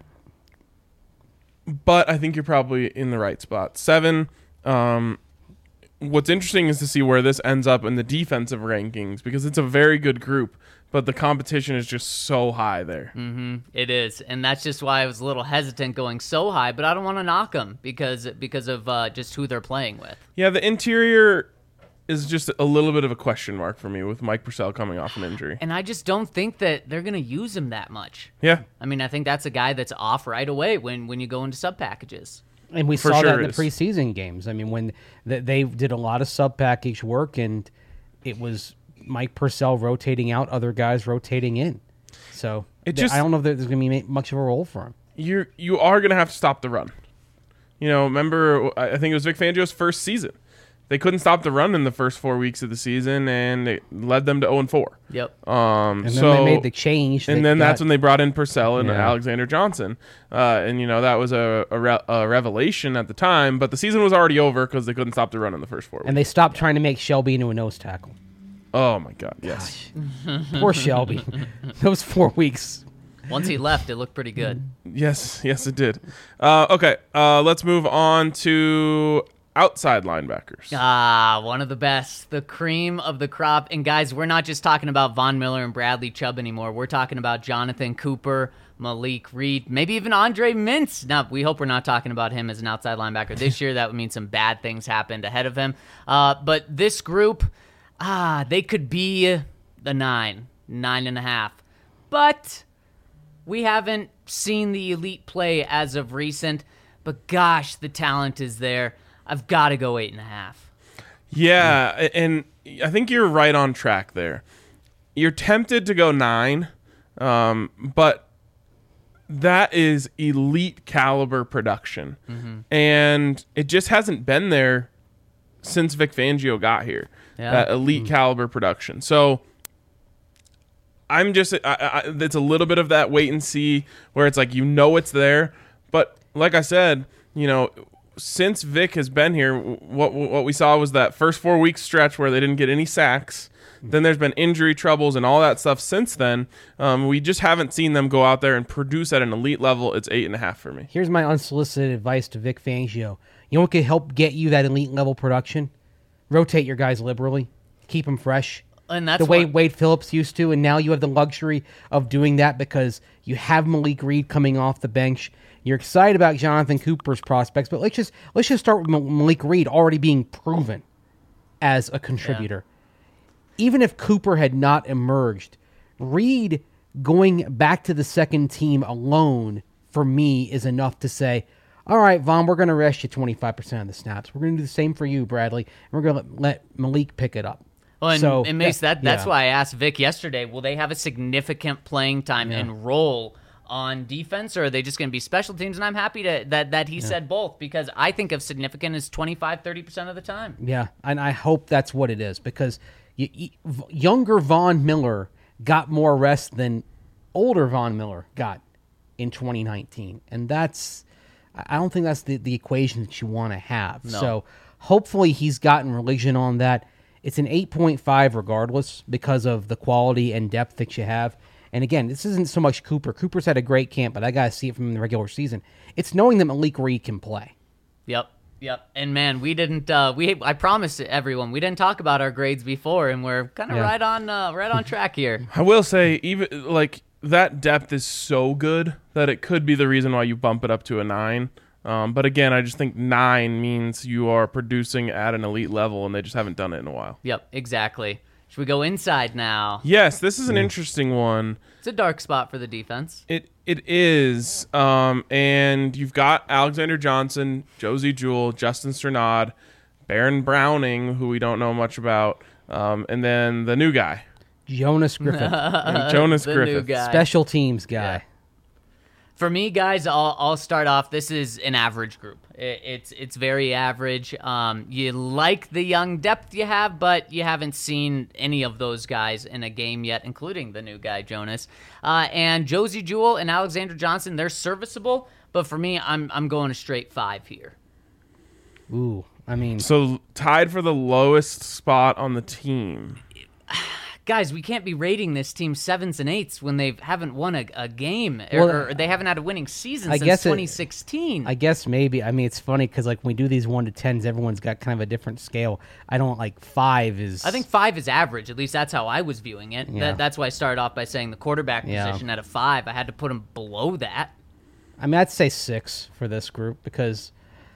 but I think you're probably in the right spot. Seven. Um, what's interesting is to see where this ends up in the defensive rankings, because it's a very good group, but the competition is just so high there. Mm-hmm. It is, and that's just why I was a little hesitant going so high, but I don't want to knock them because because of uh, just who they're playing with. Yeah, the interior is just a little bit of a question mark for me with Mike Purcell coming off an injury. And I just don't think that they're going to use him that much. Yeah. I mean, I think that's a guy that's off right away when, when you go into sub packages. And we For saw sure that in the is. preseason games. I mean, when th- they did a lot of sub package work, and it was Mike Purcell rotating out, other guys rotating in. So It th- just- I don't know if there's going to be much of a role for him. You're you are going to have to stop the run. You know, remember, I think it was Vic Fangio's first season. They couldn't stop the run in the first four weeks of the season, and it led them to oh and four. Yep. Um, And then so, they made the change. and that then that's got- when they brought in Purcell and Yeah. Alexander Johnson. Uh, and, you know, that was a, a, re- a revelation at the time, but the season was already over because they couldn't stop the run in the first four weeks. and they stopped trying to make Shelby into a nose tackle. Oh, my God, yes. Poor Shelby. Those four weeks. Once he left, it looked pretty good. Yes, yes, it did. Uh, okay, uh, let's move on to outside linebackers. Ah, one of the best, the cream of the crop. And guys, we're not just talking about Von Miller and Bradley Chubb anymore. We're talking about Jonathan Cooper, Malik Reed, maybe even Andre Mintz. Now, we hope we're not talking about him as an outside linebacker this year. That would mean some bad things happened ahead of him. Uh, but this group, ah, they could be the nine, nine and a half. But we haven't seen the elite play as of recent. But gosh, the talent is there. I've got to go eight and a half. Yeah, and I think you're right on track there. You're tempted to go nine, um, but that is elite caliber production. Mm-hmm. And it just hasn't been there since Vic Fangio got here, Yeah. that elite mm-hmm. caliber production. So I'm just, I, I, it's a little bit of that wait and see where it's like, you know, it's there. But like I said, you know, since Vic has been here, what what we saw was that first four week stretch where they didn't get any sacks. Then there's been injury troubles and all that stuff since then. Um, we just haven't seen them go out there and produce at an elite level. It's eight and a half for me. Here's my unsolicited advice to Vic Fangio. You know what could help get you that elite level production? Rotate your guys liberally. Keep them fresh. And that's the way what- Wade Phillips used to, and now you have the luxury of doing that because you have Malik Reed coming off the bench. You're excited about Jonathan Cooper's prospects, but let's just let's just start with Malik Reed already being proven as a contributor. Yeah. Even if Cooper had not emerged, Reed going back to the second team alone for me is enough to say, all right, Vaughn, we're going to rest you twenty-five percent of the snaps. We're going to do the same for you, Bradley, and we're going to let, let Malik pick it up. Well, and, so, and Mace, that, that's yeah. why I asked Vic yesterday, will they have a significant playing time Yeah. and role on defense, or are they just going to be special teams? And I'm happy to, that, that he said both, because I think of significant as twenty-five, thirty percent of the time. Yeah, and I hope that's what it is, because you, you, younger Von Miller got more rest than older Von Miller got in twenty nineteen. And that's, I don't think that's the, the equation that you want to have. No. So hopefully he's gotten religion on that. It's an eight point five regardless because of the quality and depth that you have. And again, this isn't so much Cooper. Cooper's had a great camp, but I got to see it from the regular season. It's knowing that Malik Reed can play. Yep. Yep. And man, we didn't, uh, we, I promised everyone, we didn't talk about our grades before, and we're kind of Yeah. right on, uh, right on track here. I will say, even like that depth is so good that it could be the reason why you bump it up to a nine. Um, but again, I just think nine means you are producing at an elite level, and they just haven't done it in a while. Yep, exactly. Should we go inside now? Yes, this is an interesting one. It's a dark spot for the defense. It it is, um, and you've got Alexander Johnson, Josie Jewell, Justin Strnad, Baron Browning, who we don't know much about, um, and then the new guy, Jonas Griffith, Jonas the Griffith. new guy. special teams guy. Yeah. For me, guys, I'll, I'll start off. This is an average group. It, it's it's very average. Um, you like the young depth you have, but you haven't seen any of those guys in a game yet, including the new guy, Jonas. Uh, and Josie Jewell and Alexander Johnson, they're serviceable, but for me, I'm I'm going a straight five here. Ooh, I mean, So tied for the lowest spot on the team. Guys, we can't be rating this team sevens and eights when they haven't won a, a game, Well, or, or they haven't had a winning season I since guess it- twenty sixteen. I guess maybe. I mean, it's funny because like when we do these one to tens, everyone's got kind of a different scale. I don't like five is. I think five is average. At least that's how I was viewing it. Yeah. That, that's why I started off by saying the quarterback Yeah. position at a five. I had to put him below that. I mean, I'd say six for this group because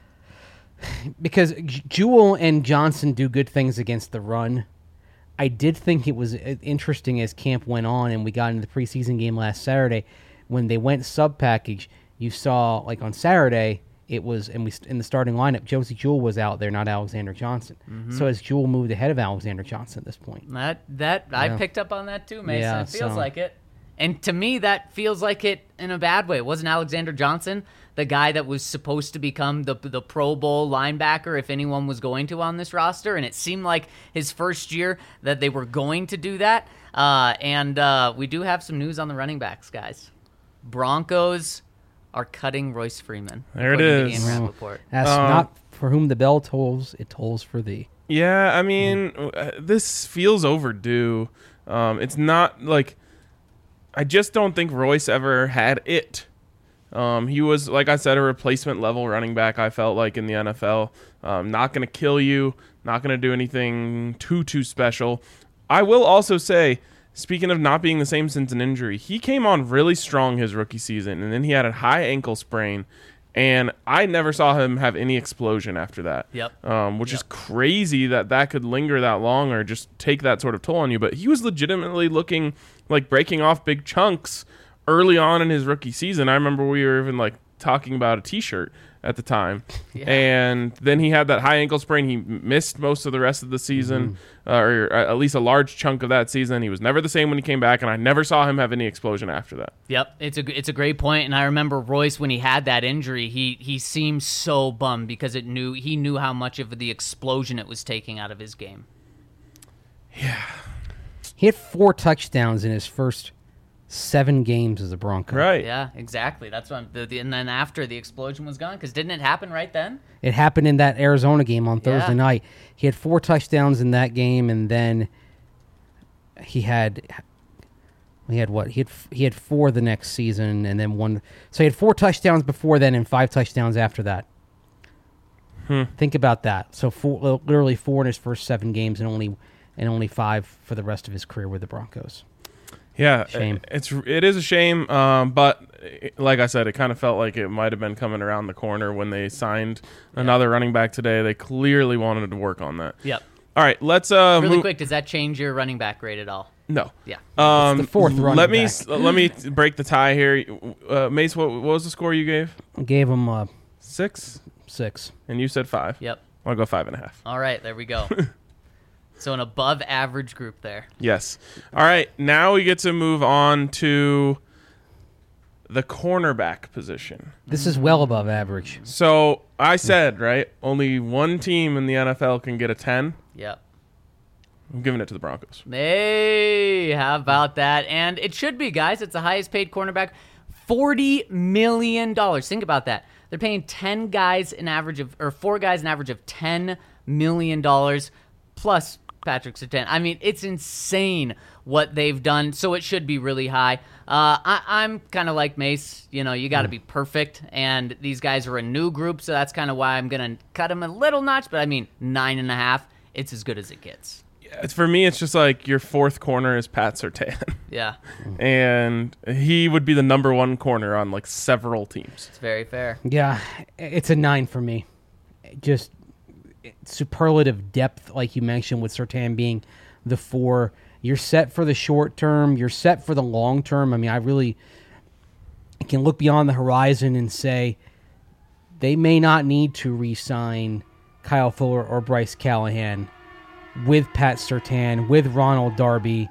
because J- Jewell and Johnson do good things against the run. I did think it was uh, interesting as camp went on and we got into the preseason game last Saturday when they went sub package. You saw like on Saturday it was and we in the starting lineup Josie Jewell was out there, not Alexander Johnson. So as Jewell moved ahead of Alexander Johnson at this point. That that I Yeah. picked up on that too, Mason. Yeah, it feels so- like it. And to me, that feels like it in a bad way. It wasn't Alexander Johnson the guy that was supposed to become the the Pro Bowl linebacker if anyone was going to on this roster, and it seemed like his first year that they were going to do that. Uh, and uh, we do have some news on the running backs, guys. Broncos are cutting Royce Freeman. There it according to is. Ian Oh. Rappaport. That's Um, not for whom the bell tolls, it tolls for thee. Yeah, I mean, uh, this feels overdue. Um, it's not like I just don't think Royce ever had it. Um, he was, like I said, a replacement level running back. I felt like in the N F L, um, not going to kill you, not going to do anything too too special. I will also say, speaking of not being the same since an injury, he came on really strong his rookie season, and then he had a high ankle sprain. And I never saw him have any explosion after that. Yep. Um, which Yep. is crazy that that could linger that long or just take that sort of toll on you. But he was legitimately looking like breaking off big chunks early on in his rookie season. I remember we were even like talking about a T-shirt at the time. Yeah. And then he had that high ankle sprain. He m- missed most of the rest of the season, uh, or at least a large chunk of that season. He was never the same when he came back, and I never saw him have any explosion after that. Yep, it's a it's a great point, and I remember Royce when he had that injury, he he seemed so bummed because it knew he knew how much of the explosion it was taking out of his game. He had four touchdowns in his first seven games as a Bronco. Right. Yeah, exactly. That's what. I'm, the, the, and then after the explosion was gone, because didn't it happen right then? It happened in that Arizona game on Thursday Yeah. night. He had four touchdowns in that game, and then he had he had what? He had he had four the next season, and then one. So he had four touchdowns before then, and five touchdowns after that. Hmm. Think about that. So four, literally four in his first seven games, and only and only five for the rest of his career with the Broncos. Yeah, Shame. it's it is a shame, um, but it- like I said, it kind of felt like it might have been coming around the corner when they signed another running back today. They clearly wanted to work on that. Yep. All right, let's uh, Really move- quick, does that change your running back grade at all? No, Yeah. um, the fourth running Let me back. s- let me break the tie here. Uh, Mace, what, what was the score you gave? Gave him uh, Six, six. and you said five. Yep. I'll go five and a half. All right, there we go. So an above average group there. Yes. All right, now we get to move on to the cornerback position. This is well above average. So I said, right, only one team in the N F L can get a ten. Yep. I'm giving it to the Broncos. Hey, how about that? And it should be, guys. It's the highest paid cornerback, forty million dollars. Think about that. They're paying ten guys an average of, or four guys an average of ten million dollars plus Patrick Surtain. I mean, it's insane what they've done, so it should be really high. Uh, I, I'm kind of like Mace. You know, you got to be perfect, and these guys are a new group, so that's kind of why I'm going to cut them a little notch, but I mean, nine and a half, it's as good as it gets. It's, for me, it's just like your fourth corner is Pat Surtain. Yeah, And he would be the number one corner on like several teams. it's very fair. Yeah, it's a nine for me. Just superlative depth, like you mentioned, with Surtain being the four. You're set for the short term. You're set for the long term. I mean, I really can look beyond the horizon and say they may not need to re-sign Kyle Fuller or Bryce Callahan with Pat Surtain, with Ronald Darby.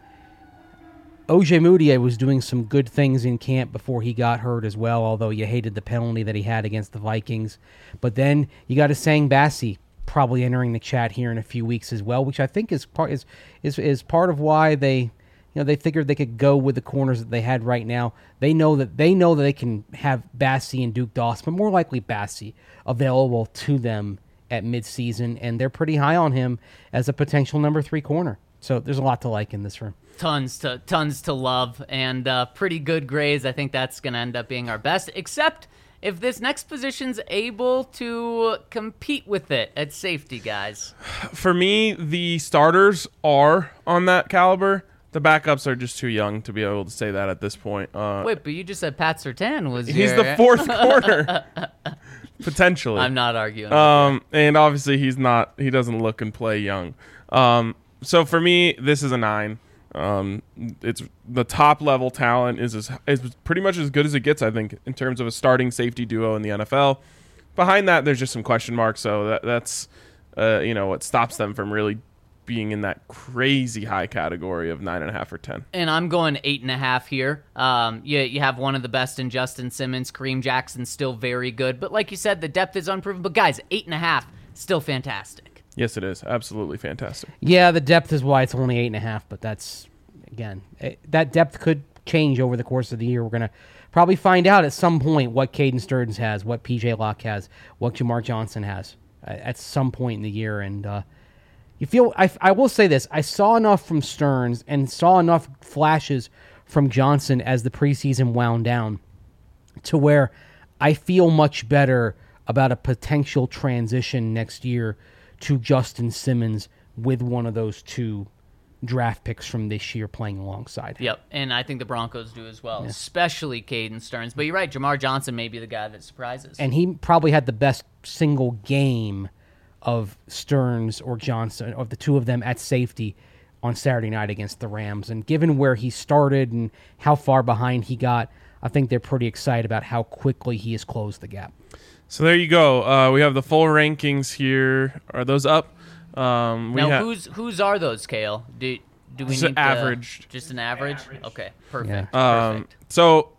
O J Moutier was doing some good things in camp before he got hurt as well, although you hated the penalty that he had against the Vikings. But then you got a Sang Bassi probably entering the chat here in a few weeks as well, which I think is part is is is part of why they, you know, they figured they could go with the corners that they had right now. They know that they know that they can have Bassi and Duke Dawson, but more likely Bassi available to them at midseason, and they're pretty high on him as a potential number three corner. So there's a lot to like in this room. Tons to tons to love, and uh, pretty good grades. I think that's going to end up being our best, except if this next position's able to compete with it at safety, guys. For me, the starters are on that caliber. The backups are just too young to be able to say that at this point. Uh, Wait, but you just said Pat Surtain was he's your... the fourth corner, potentially. I'm not arguing. Um, and obviously he's not. He doesn't look and play young. Um, so for me, this is a nine. Um, it's the top level talent is, as, is pretty much as good as it gets, I think, in terms of a starting safety duo in the N F L. Behind that, there's just some question marks, so that, that's uh, you know what stops them from really being in that crazy high category of nine and a half or ten. And I'm going eight and a half here. Um, you you have one of the best in Justin Simmons. Kareem Jackson's still very good, but like you said, the depth is unproven. But guys, eight and a half, still fantastic. Yes, it is. Absolutely fantastic. Yeah, the depth is why it's only eight and a half, but that's, again, it, that depth could change over the course of the year. We're going to probably find out at some point what Caden Stearns has, what P J Locke has, what Jamar Johnson has uh, at some point in the year. And uh, you feel, I, I will say this, I saw enough from Stearns and saw enough flashes from Johnson as the preseason wound down to where I feel much better about a potential transition next year to Justin Simmons with one of those two draft picks from this year playing alongside. Yep, and I think the Broncos do as well, yeah. Especially Caden Stearns. But you're right, Jamar Johnson may be the guy that surprises. And he probably had the best single game of Stearns or Johnson, of the two of them at safety on Saturday night against the Rams. And given where he started and how far behind he got, I think they're pretty excited about how quickly he has closed the gap. So there you go. Uh, we have the full rankings here. Are those up? Um, we now, ha- whose whose are those, Kale? Do do we Just need an average. To, just an average? average. Okay, perfect. Yeah. Um, perfect. so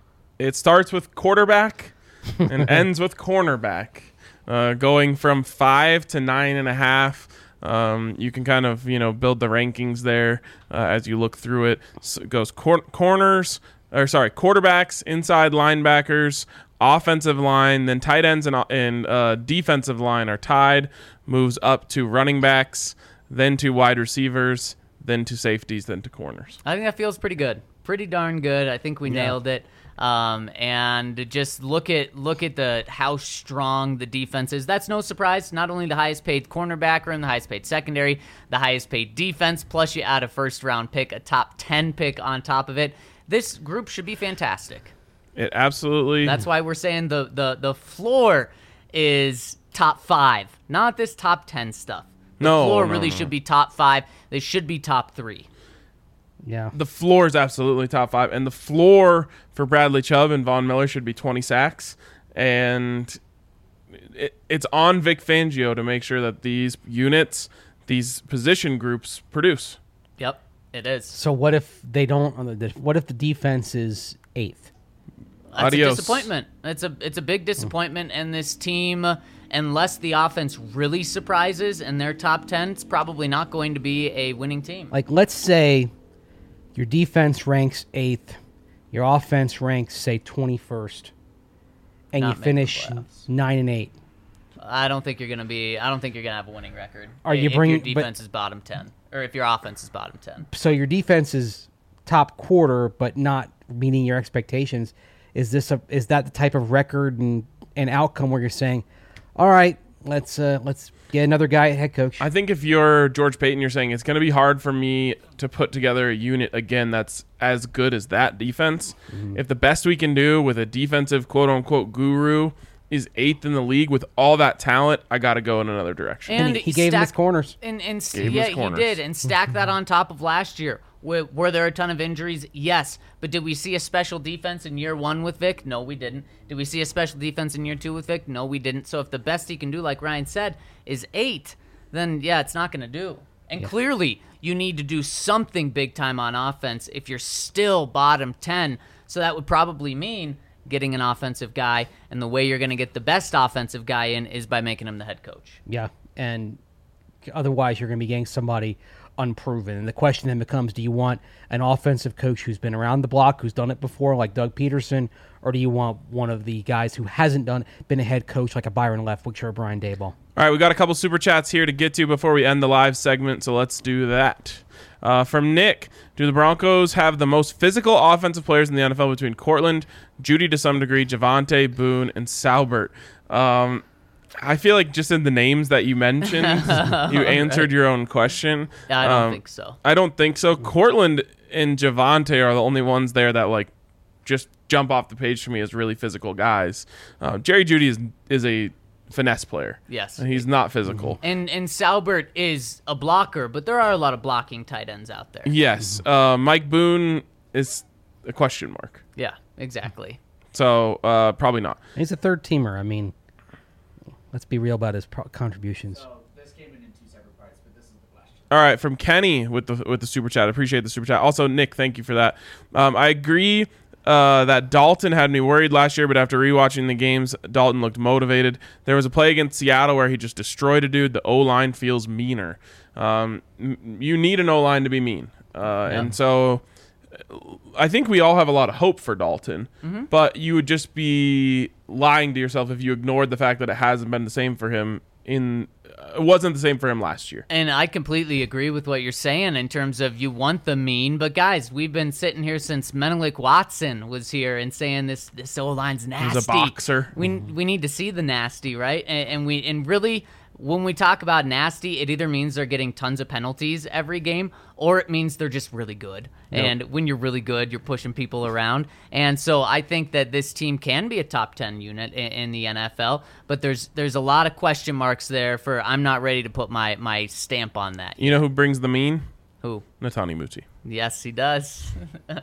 it starts with quarterback and ends with cornerback, uh, going from five to nine and a half. Um, you can kind of you know build the rankings there uh, as you look through it. So it goes cor- corners, or sorry, quarterbacks, inside linebackers, offensive line, then tight ends and, and uh, defensive line are tied, moves up to running backs, then to wide receivers, then to safeties, then to corners. I think that feels pretty good. Pretty darn good. I think we Yeah. nailed it. Um, and just look at look at the how strong the defense is. That's no surprise. Not only the highest paid cornerback room, the highest paid secondary, the highest paid defense, plus you add a first round pick, a top ten pick on top of it. This group should be fantastic. It absolutely. That's why we're saying the, the, the floor is top five, not this top ten stuff. The No, floor no, really no. should be top five. They should be top three. Yeah. The floor is absolutely top five, and the floor for Bradley Chubb and Von Miller should be twenty sacks, and it, it's on Vic Fangio to make sure that these units, these position groups, produce. Yep, it is. So what if they don't, what if the defense is eighth? That's Adios. a disappointment. It's a it's a big disappointment, and this team, unless the offense really surprises and they're top ten, it's probably not going to be a winning team. Like, let's say your defense ranks eighth, your offense ranks, say, twenty-first, and Not you making finish the playoffs. nine and eight. I don't think you're going to be. I don't think you're going to have a winning record. Are you if bringing- your but- defense is bottom ten, or if your offense is bottom ten? So your defense is top quarter, but not meeting your expectations. Is this a is that the type of record and, and outcome where you're saying, all right, let's uh, let's get another guy at head coach? I think if you're George Payton, you're saying it's going to be hard for me to put together a unit again that's as good as that defense. Mm-hmm. If the best we can do with a defensive quote unquote guru is eighth in the league with all that talent, I got to go in another direction. And he, he gave him his corners. And, and Gave him yeah, his corners. he did. And stack that on top of last year. Were, were there a ton of injuries? Yes. But did we see a special defense in year one with Vic? No, we didn't. Did we see a special defense in year two with Vic? No, we didn't. So if the best he can do, like Ryan said, is eight, then yeah, it's not going to do. And yeah. clearly, you need to do something big time on offense if you're still bottom ten. So that would probably mean getting an offensive guy, and the way you're going to get the best offensive guy in is by making him the head coach. Yeah, and otherwise you're going to be getting somebody unproven. And the question then becomes, do you want an offensive coach who's been around the block, who's done it before, like Doug Peterson, or do you want one of the guys who hasn't done been a head coach like a Byron Leftwich or Brian Daboll? All right, we got a couple super chats here to get to before we end the live segment, so let's do that. Uh, from Nick, do the Broncos have the most physical offensive players in the N F L between Cortland, Judy to some degree, Javonte, Boone, and Salbert? Um, I feel like just in the names that you mentioned, you answered right. your own question. Yeah, I don't um, think so. I don't think so. Cortland and Javonte are the only ones there that like just jump off the page for me as really physical guys. Uh, Jerry Jeudy is is a finesse player. Yes. And he's not physical. And and Salbert is a blocker, but there are a lot of blocking tight ends out there. Yes. Uh, Mike Boone is a question mark. Yeah, exactly. So uh, probably not. He's a third teamer. I mean, let's be real about his pro- contributions. So this came in in two separate parts, but this is the question. All right, from Kenny with the with the super chat. I appreciate the super chat. Also, Nick, thank you for that. Um, I agree uh, that Dalton had me worried last year, but after rewatching the games, Dalton looked motivated. There was a play against Seattle where he just destroyed a dude. The O-line feels meaner. Um, m- you need an O-line to be mean. Uh, yeah. And so I think we all have a lot of hope for Dalton, mm-hmm. but you would just be lying to yourself if you ignored the fact that it hasn't been the same for him in it wasn't the same for him last year. And I completely agree with what you're saying in terms of you want the mean, but guys, we've been sitting here since Menelik Watson was here and saying this this O-line's nasty. He's a boxer. We we need to see the nasty, right? And, and we and really when we talk about nasty, it either means they're getting tons of penalties every game, or it means they're just really good. Yep. And when you're really good, you're pushing people around. And so I think that this team can be a top ten unit in, in the N F L, but there's there's a lot of question marks there for I'm not ready to put my, my stamp on that. You know who brings the mean? Who? Netani Muti. Yes, he does.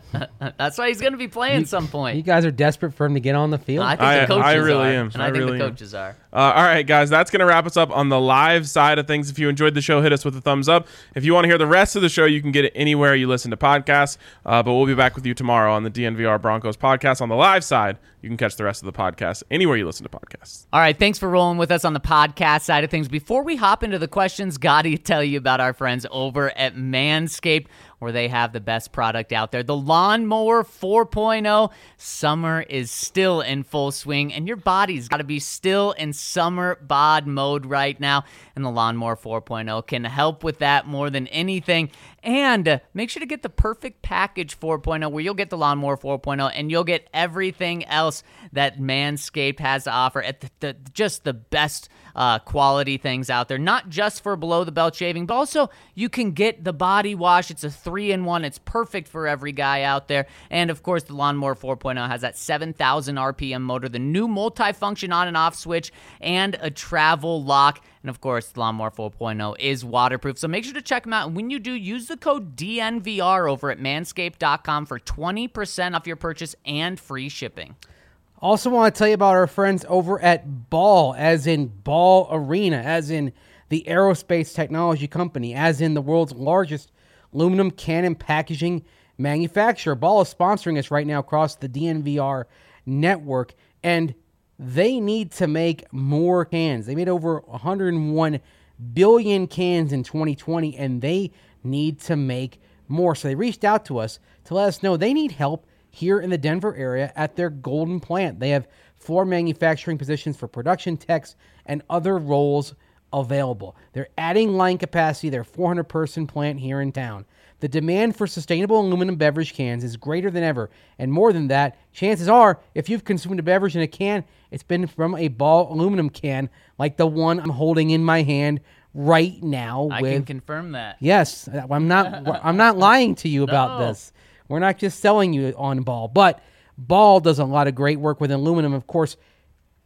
That's why he's going to be playing you, some point. You guys are desperate for him to get on the field? No, I think I, the coaches I really are. am. And I, I think really the am. coaches are. Uh, all right, guys, that's going to wrap us up on the live side of things. If you enjoyed the show, hit us with a thumbs up. If you want to hear the rest of the show, you can get it anywhere you listen to podcasts. Uh, but we'll be back with you tomorrow on the D N V R Broncos podcast. On the live side, you can catch the rest of the podcast anywhere you listen to podcasts. All right, thanks for rolling with us on the podcast side of things. Before we hop into the questions, got to tell you about our friends over at Manscaped, where they have the best product out there. The Lawnmower four point oh. Summer is still in full swing, and your body's got to be still in summer bod mode right now. And the Lawnmower four point oh can help with that more than anything. And uh, make sure to get the Perfect Package four point oh, where you'll get the Lawnmower four point oh, and you'll get everything else that Manscaped has to offer at the, the, just the best uh, quality things out there. Not just for below-the-belt shaving, but also you can get the body wash. It's a three in one. It's perfect for every guy out there. And, of course, the Lawnmower four point oh has that seven thousand R P M motor, the new multi-function on and off switch, and a travel lock. And, of course, the Lawnmower four point oh is waterproof. So make sure to check them out. And when you do, use the code D N V R over at manscaped dot com for twenty percent off your purchase and free shipping. Also want to tell you about our friends over at Ball, as in Ball Arena, as in the aerospace technology company, as in the world's largest aluminum can and packaging manufacturer. Ball is sponsoring us right now across the D N V R network, and they need to make more cans. They made over one hundred one billion cans in twenty twenty, and they need to make more. So they reached out to us to let us know they need help here in the Denver area at their Golden plant. They have four manufacturing positions for production techs and other roles available. They're adding line capacity, their four hundred person plant here in town. The demand for sustainable aluminum beverage cans is greater than ever, and more than that, chances are, if you've consumed a beverage in a can, it's been from a Ball aluminum can, like the one I'm holding in my hand right now. I with, can confirm that. Yes, I'm not. I'm not lying to you about No. this. We're not just selling you on Ball, but Ball does a lot of great work with aluminum. Of course,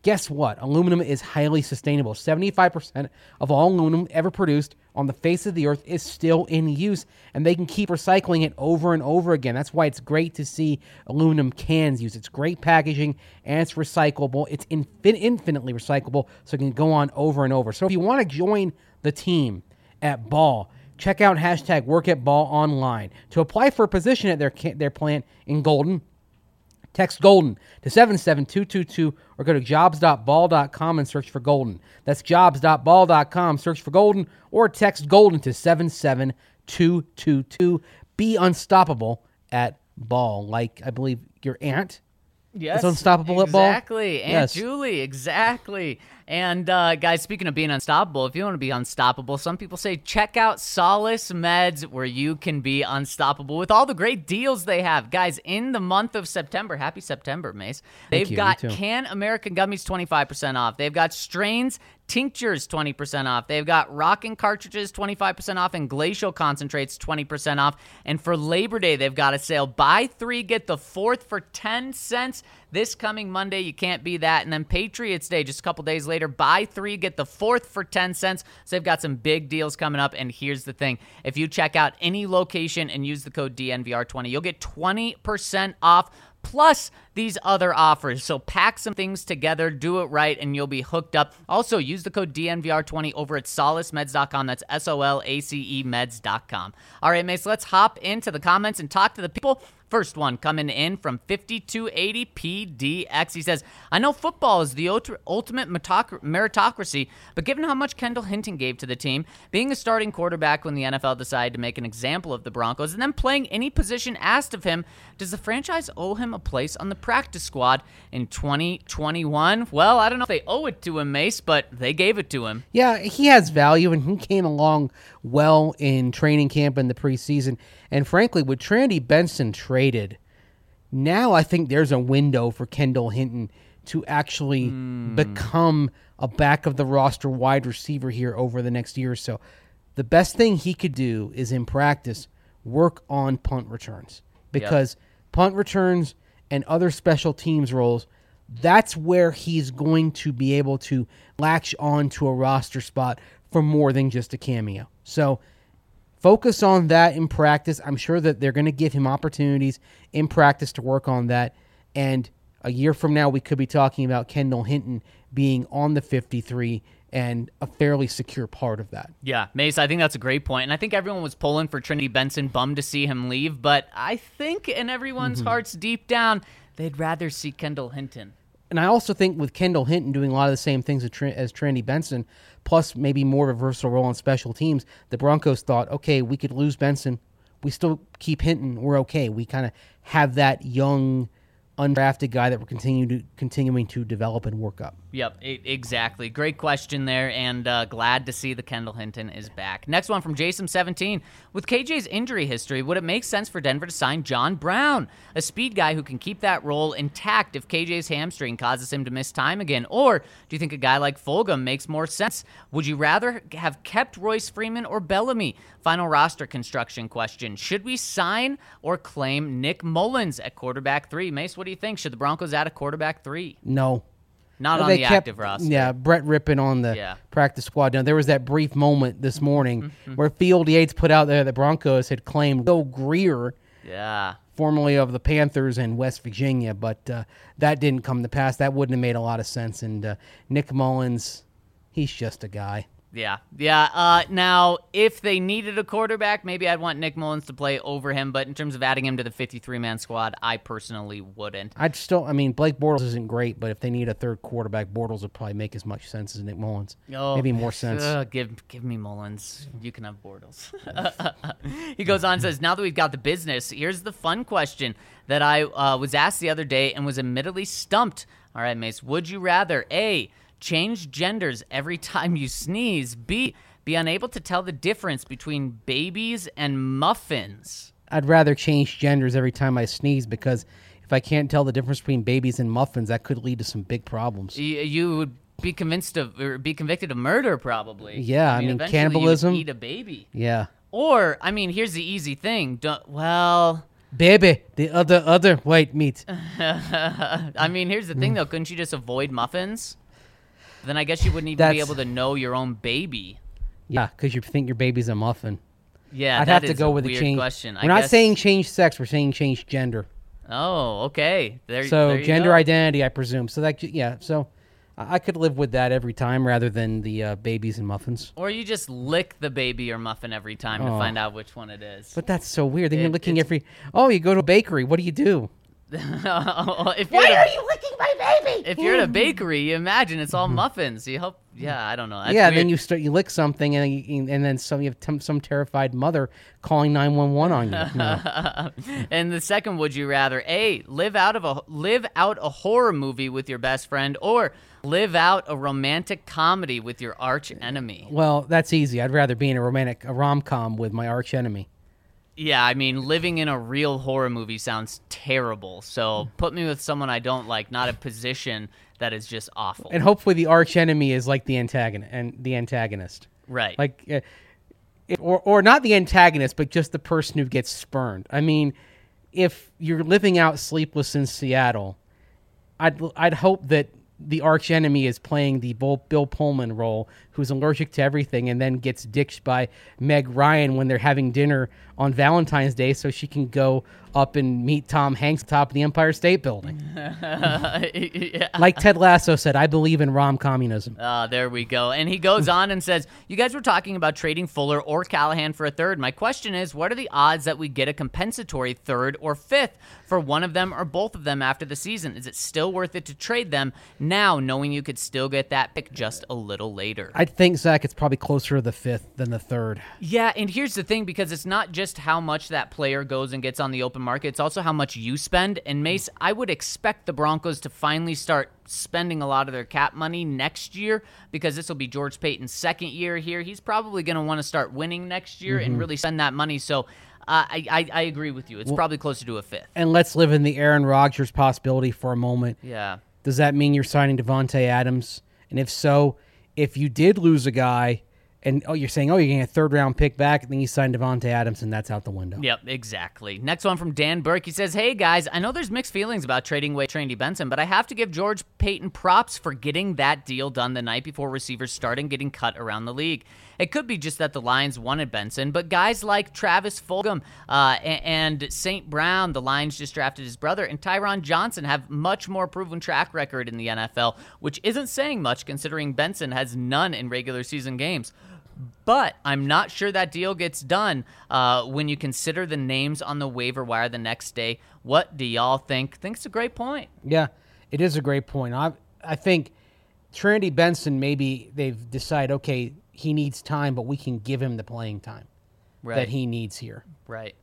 Guess what? Aluminum is highly sustainable. seventy-five percent of all aluminum ever produced on the face of the earth is still in use, and they can keep recycling it over and over again. That's why it's great to see aluminum cans used. It's great packaging, and it's recyclable. It's infin- infinitely recyclable, so it can go on over and over. So if you want to join the team at Ball, check out hashtag Work at Ball online. To apply for a position at their ca- their plant in Golden, text Golden to seven seven two two two or go to jobs dot ball dot com and search for Golden. That's jobs dot ball dot com, search for Golden, or text Golden to seven seven two two two. Be unstoppable at Ball, like I believe your aunt Yes, is unstoppable at Ball. Exactly. Aunt Yes. Julie, exactly. And uh, guys, speaking of being unstoppable, if you want to be unstoppable, some people say check out Solace Meds, where you can be unstoppable with all the great deals they have. Guys, in the month of September, happy September, Mace. They've you, got me too. Can American Gummies twenty-five percent off. They've got Strains Tinctures twenty percent off. They've got Rockin' Cartridges twenty-five percent off and Glacial Concentrates twenty percent off. And for Labor Day, they've got a sale. Buy three, get the fourth for ten cents. This coming Monday, you can't be that. And then Patriots Day, just a couple days later, buy three, get the fourth for ten cents. So they've got some big deals coming up. And here's the thing. If you check out any location and use the code D N V R twenty, you'll get twenty percent off plus these other offers. So pack some things together, do it right, and you'll be hooked up. Also, use the code D N V R twenty over at solace meds dot com. That's S O L A C E meds dot com. All right, Mace, let's hop into the comments and talk to the people. First one coming in from fifty-two eighty P D X. He says, I know football is the ult- ultimate metoc- meritocracy, but given how much Kendall Hinton gave to the team, being a starting quarterback when the N F L decided to make an example of the Broncos, and then playing any position asked of him, does the franchise owe him a place on the practice squad in twenty twenty-one? Well, I don't know if they owe it to him, Mace, but they gave it to him. Yeah, he has value, and he came along well in training camp in the preseason. And frankly, with Trendy Benson traded, now I think there's a window for Kendall Hinton to actually Mm. become a back of the roster wide receiver here over the next year or so. The best thing he could do is in practice work on punt returns, because punt returns and other special teams roles, that's where he's going to be able to latch on to a roster spot for more than just a cameo. So focus on that in practice. I'm sure that they're going to give him opportunities in practice to work on that. And a year from now, we could be talking about Kendall Hinton being on the fifty-three and a fairly secure part of that. Yeah, Mace, I think that's a great point. And I think everyone was pulling for Trinity Benson, bummed to see him leave. But I think in everyone's Mm-hmm. hearts deep down, they'd rather see Kendall Hinton. And I also think with Kendall Hinton doing a lot of the same things as, Tr- as Trendy Benson, plus maybe more of a versatile role on special teams, the Broncos thought, okay, we could lose Benson. We still keep Hinton. We're okay. We kind of have that young, undrafted guy that we're continue to, continuing to develop and work up. Yep, e- exactly. Great question there, and uh, glad to see the Kendall Hinton is back. Next one from Jason seventeen. With K J's injury history, would it make sense for Denver to sign John Brown, a speed guy who can keep that role intact if K J's hamstring causes him to miss time again? Or do you think a guy like Fulgham makes more sense? Would you rather have kept Royce Freeman or Bellamy? Final roster construction question. Should we sign or claim Nick Mullins at quarterback three? Mace, what do you think? Should the Broncos add a quarterback three? No. Not Well, on they the kept- active roster. Yeah, Brett Rippon on the Yeah. practice squad. Now, there was that brief moment this morning Mm-hmm. where Field Yates put out there that Broncos had claimed Bill Greer, Yeah. formerly of the Panthers in West Virginia, but uh, that didn't come to pass. That wouldn't have made a lot of sense. And uh, Nick Mullins, he's just a guy. Yeah, yeah. Uh, now, if they needed a quarterback, maybe I'd want Nick Mullins to play over him. But in terms of adding him to the fifty-three man squad, I personally wouldn't. I'd still, I mean, Blake Bortles isn't great, but if they need a third quarterback, Bortles would probably make as much sense as Nick Mullins. Oh, Maybe more sense. uh, give give me Mullins. You can have Bortles. He goes on and says, now that we've got the business, here's the fun question that I uh, was asked the other day and was admittedly stumped. All right, Mace, would you rather A, change genders every time you sneeze, B, be unable to tell the difference between babies and muffins? I'd rather change genders every time I sneeze, because if I can't tell the difference between babies and muffins, that could lead to some big problems. Y- You would be convinced of, or be convicted of murder, probably. Yeah, I mean, eventually you would cannibalism. Eat a baby, Yeah. or I mean, here's the easy thing. Don't, well, Baby, the other other white meat. I mean, here's the thing, though. Couldn't you just avoid muffins? Then I guess you wouldn't even be That's- able to know your own baby. Yeah, because you think your baby's a muffin. Yeah, I'd that have to is go a with the weird change. question. We're I not guess- saying change sex. We're saying change gender. Oh, okay. There, So there you gender go. identity, I presume. So that yeah. So I I could live with that every time rather than the uh, babies and muffins. Or you just lick the baby or muffin every time to Oh. find out which one it is. But that's so weird. Then you're It- looking it's- every. Oh, you go to a bakery. What do you do? if you're Why are you licking my baby? If you're at a bakery, you imagine it's all muffins. You hope. Yeah, I don't know. That's Mm-hmm. yeah, weird. then you start you lick something and you, and then some you have t- some terrified mother calling nine one one on you. No. And the second, would you rather a live out of a live out a horror movie with your best friend, or live out a romantic comedy with your arch enemy? Well, that's easy. I'd rather be in a romantic a rom com with my arch enemy. Yeah, I mean, living in a real horror movie sounds terrible. So put me with someone I don't like, not a position that is just awful. And hopefully the arch enemy is like the antagonist and the antagonist. Right. Like uh, it, or or not the antagonist, but just the person who gets spurned. I mean, if you're living out Sleepless in Seattle, I'd I'd hope that the arch enemy is playing the Bill, Bill Pullman role, who's allergic to everything and then gets ditched by Meg Ryan when they're having dinner on Valentine's Day so she can go up and meet Tom Hanks atop of the Empire State Building. yeah. Like Ted Lasso said, I believe in rom communism. Uh, there we go. And he goes on and says, you guys were talking about trading Fuller or Callahan for a third. My question is, what are the odds that we get a compensatory third or fifth for one of them or both of them after the season? Is it still worth it to trade them now, knowing you could still get that pick just a little later? I think, Zach, it's probably closer to the fifth than the third. Yeah, and here's the thing, because it's not just how much that player goes and gets on the open market, it's also how much you spend. And Mace, I would expect the Broncos to finally start spending a lot of their cap money next year, because this will be George Payton's second year here. He's probably going to want to start winning next year and really spend that money. So uh, I, I I agree with you. It's probably closer to a fifth. And let's live in the Aaron Rodgers possibility for a moment. Yeah. Does that mean you're signing Devontae Adams? And if so, if you did lose a guy, and oh, you're saying, oh, you're getting a third round pick back, then you sign Devontae Adams, and that's out the window. Yep, exactly. Next one from Dan Burke. He says, hey, guys, I know there's mixed feelings about trading away Trendy Benson, but I have to give George Payton props for getting that deal done the night before receivers started getting cut around the league. It could be just that the Lions wanted Benson, but guys like Travis Fulgham uh, and Saint Brown, the Lions just drafted his brother, and Tyron Johnson have much more proven track record in the N F L, which isn't saying much considering Benson has none in regular season games. But I'm not sure that deal gets done uh, when you consider the names on the waiver wire the next day. What do y'all think? Think it's a great point. Yeah, it is a great point. I I think Trinity Benson, maybe they've decided, okay, he needs time, but we can give him the playing time Right. that he needs here. Right.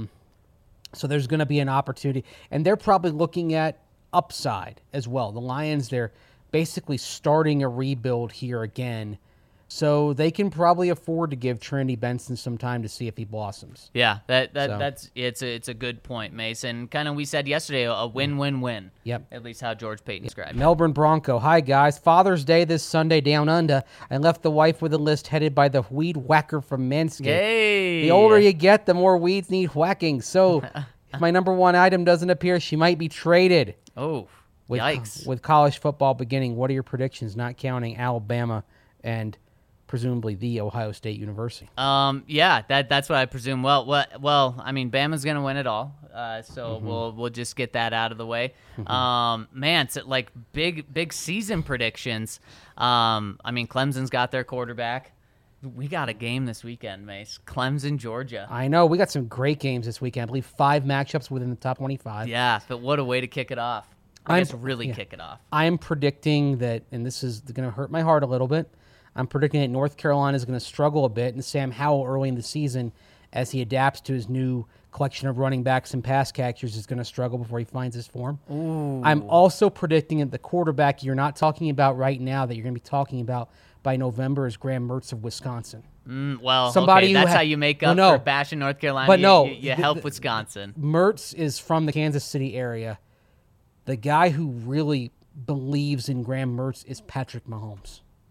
So there's going to be an opportunity. And they're probably looking at upside as well. The Lions, they're basically starting a rebuild here again. So they can probably afford to give Trinity Benson some time to see if he blossoms. Yeah, that, that So. that's it's a, it's a good point, Mason. Kind of we said yesterday, a win-win-win. Yep. At least how George Payton described it. Melbourne Bronco. Hi, guys. Father's Day this Sunday down under. I left the wife with a list headed by the weed whacker from Manscaped. Yay! The older you get, the more weeds need whacking. So if my number one item doesn't appear, she might be traded. Oh, With, yikes. With college football beginning, what are your predictions, not counting Alabama and presumably the Ohio State University? Um, yeah, that that's what I presume. Well, well, well I mean, Bama's gonna win it all, uh, so Mm-hmm. we'll we'll just get that out of the way. Um, man, it's like big big season predictions. Um, I mean, Clemson's got their quarterback. We got a game this weekend, Mace. Clemson, Georgia. I know. We got some great games this weekend. I believe five matchups within the top twenty-five. Yeah, but what a way to kick it off. I I'm- guess really yeah. kick it off. I'm predicting that, and this is going to hurt my heart a little bit, I'm predicting that North Carolina is going to struggle a bit, and Sam Howell early in the season, as he adapts to his new collection of running backs and pass catchers, is going to struggle before he finds his form. I'm also predicting that the quarterback you're not talking about right now, that you're going to be talking about by November, is Graham Mertz of Wisconsin. Mm, well, Somebody okay, who that's ha- how you make Well, up no. for bashing North Carolina. But you, no, you, you the- help the- Wisconsin. Mertz is from the Kansas City area. The guy who really believes in Graham Mertz is Patrick Mahomes.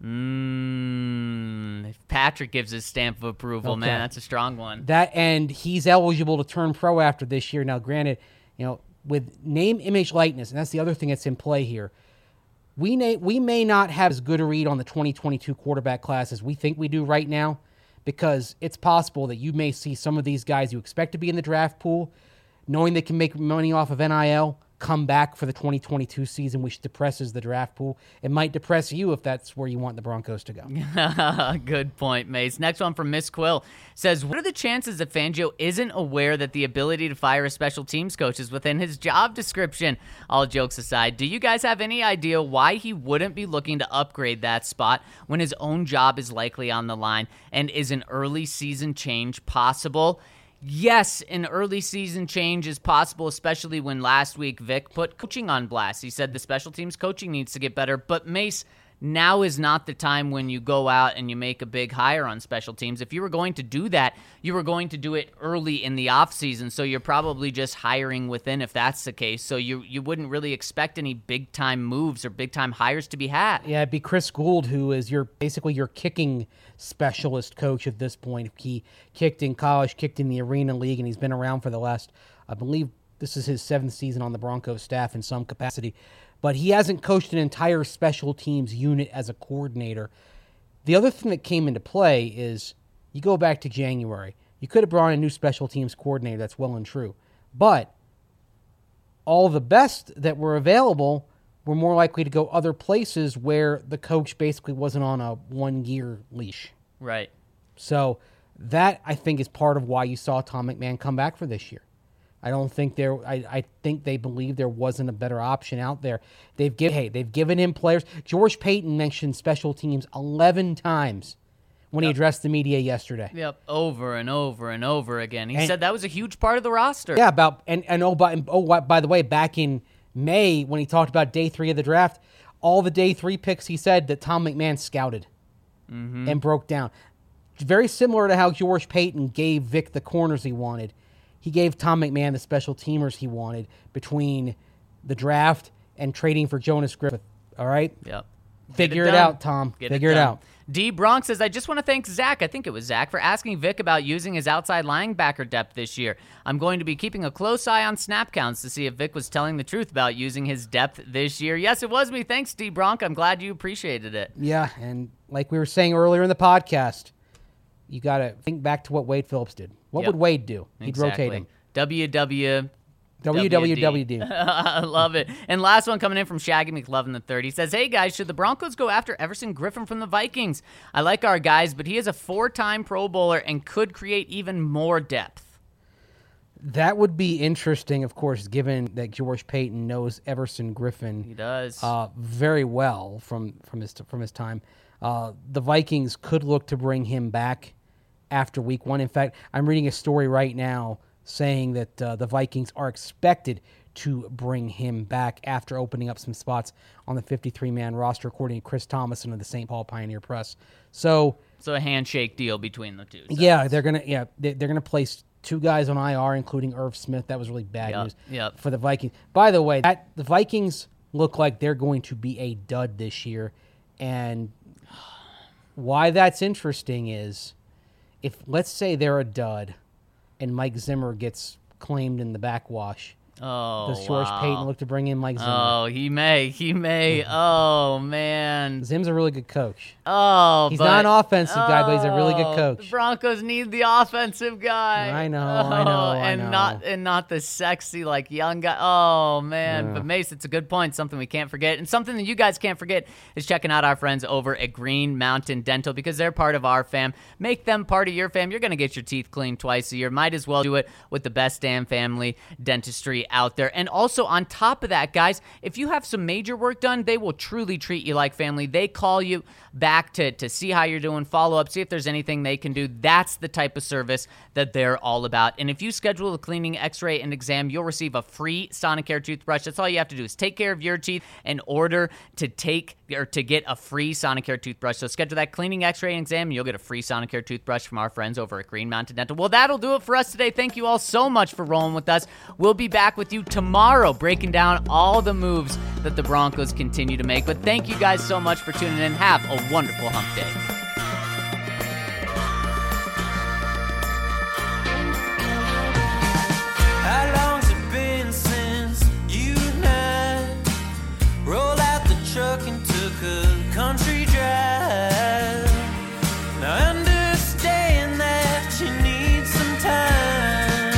Mm, if Patrick gives his stamp of approval, Okay. man, that's a strong one. That and he's eligible to turn pro after this year. Now, granted, you know, with name, image, likeness, and that's the other thing that's in play here. We may, we may not have as good a read on the twenty twenty-two quarterback class as we think we do right now, because it's possible that you may see some of these guys you expect to be in the draft pool, knowing they can make money off of N I L, come back for the twenty twenty-two season, which depresses the draft pool. It might depress you if that's where you want the Broncos to go. Good point, Mace. Next one from Miss Quill says, what are the chances that Fangio isn't aware that the ability to fire a special teams coach is within his job description? All jokes aside, do you guys have any idea why he wouldn't be looking to upgrade that spot when his own job is likely on the line? And is an early season change possible? Yes, an early season change is possible, especially when last week Vic put coaching on blast. He said the special teams coaching needs to get better, but Mace, now is not the time when you go out and you make a big hire on special teams. If you were going to do that, you were going to do it early in the offseason, so you're probably just hiring within if that's the case. So you you wouldn't really expect any big-time moves or big-time hires to be had. Yeah, it'd be Chris Gould, who is your basically your kicking specialist coach at this point. He kicked in college, kicked in the Arena League, and he's been around for the last, I believe this is his seventh season on the Broncos staff in some capacity. But he hasn't coached an entire special teams unit as a coordinator. The other thing that came into play is you go back to January. You could have brought in a new special teams coordinator. That's well and true. But all the best that were available were more likely to go other places where the coach basically wasn't on a one-year leash. Right. So that, I think, is part of why you saw Tom McMahon come back for this year. I don't think there. I, I think they believe there wasn't a better option out there. They've given. Hey, they've given him players. George Payton mentioned special teams eleven times when Yep. he addressed the media yesterday. Yep, over and over and over again. He And- said that was a huge part of the roster. Yeah, about and and oh by oh by, by the way, back in May when he talked about day three of the draft, all the day three picks he said that Tom McMahon scouted Mm-hmm. and broke down. Very similar to how George Payton gave Vic the corners he wanted. He gave Tom McMahon the special teamers he wanted between the draft and trading for Jonas Griffith. All right? Yep. Figure Get it done. out, Tom. Get Figure it done. out. D. Bronx says, I just want to thank Zach, I think it was Zach, for asking Vic about using his outside linebacker depth this year. I'm going to be keeping a close eye on snap counts to see if Vic was telling the truth about using his depth this year. Yes, it was me. Thanks, D. Bronx. I'm glad you appreciated it. Yeah, and like we were saying earlier in the podcast, you got to think back to what Wade Phillips did. What Yep. would Wade do? He'd Exactly. rotate him. W W W W W D. I love it. And last one coming in from Shaggy McLovin the third. He says, hey, guys, should the Broncos go after Everson Griffin from the Vikings? I like our guys, but he is a four-time Pro Bowler and could create even more depth. That would be interesting, of course, given that George Payton knows Everson Griffin He does. uh, very well from, from his from his time. Uh, the Vikings could look to bring him back after week one. In fact, I'm reading a story right now saying that uh, the Vikings are expected to bring him back after opening up some spots on the fifty-three man roster, according to Chris Thomason of the Saint Paul Pioneer Press. So, so a handshake deal between the two. sides. yeah, they're gonna yeah they- they're gonna place two guys on I R, including Irv Smith. That was really bad Yep, news yep. for the Vikings. By the way, that the Vikings look like they're going to be a dud this year, and why that's interesting is if let's say they're a dud, and Mike Zimmer gets claimed in the backwash. Oh, Does George wow. Payton look to bring in Mike Zimmer? Oh, he may. He may. Oh, man. Zim's a really good coach. Oh, He's but, not an offensive guy, but he's a really good Oh, coach. The Broncos need the offensive guy. I know, I know, Oh, I and know. not and not the sexy like young guy. Oh man, Yeah. but Mace, it's a good point. Something we can't forget, and something that you guys can't forget is checking out our friends over at Green Mountain Dental because they're part of our fam. Make them part of your fam. You're gonna get your teeth cleaned twice a year. Might as well do it with the best damn family dentistry out there. And also on top of that, guys, if you have some major work done, they will truly treat you like family. They call you back to, to see how you're doing, follow up, see if there's anything they can do. That's the type of service that they're all about. And if you schedule a cleaning, x-ray, and exam, you'll receive a free Sonicare toothbrush. That's all you have to do is take care of your teeth in order to take or to get a free Sonicare toothbrush. So schedule that cleaning, x-ray, and exam, and you'll get a free Sonicare toothbrush from our friends over at Green Mountain Dental. Well, that'll do it for us today. Thank you all so much for rolling with us. We'll be back with with you tomorrow, breaking down all the moves that the Broncos continue to make. But thank you guys so much for tuning in. Have a wonderful hump day. How long's it been since you and I rolled out the truck and took a country drive? Now understand that you need some time.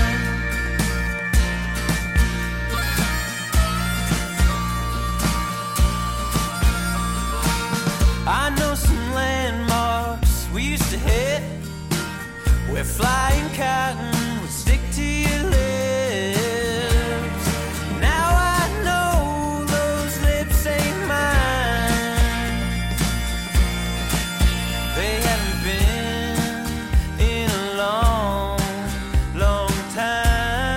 I know some landmarks we used to hit where flying cotton would stick to your lips. Now I know those lips ain't mine. They haven't been in a long, long time.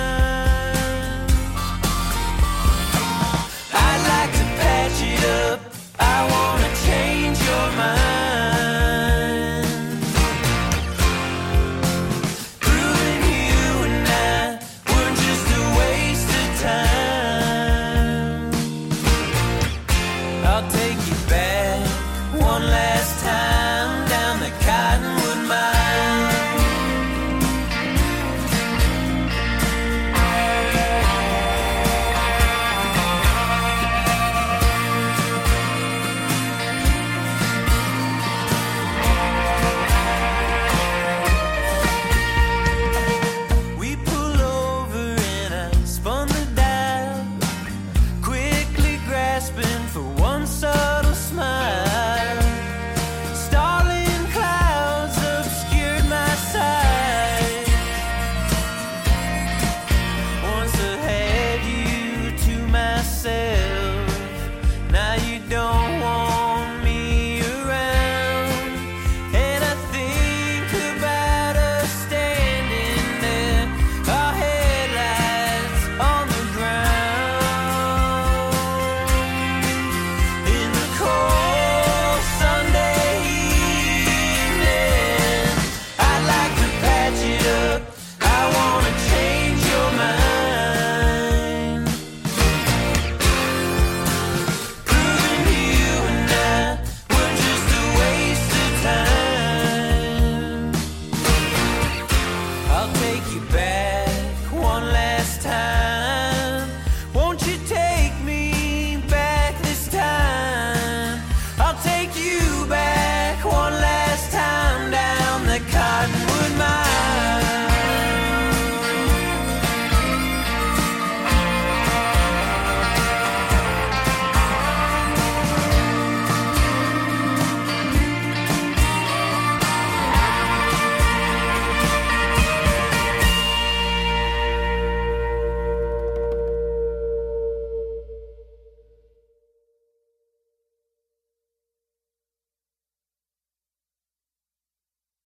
I'd like to patch it up. I wanna change your mind. Proving you and I were just a waste of time. I'll take you back one last time.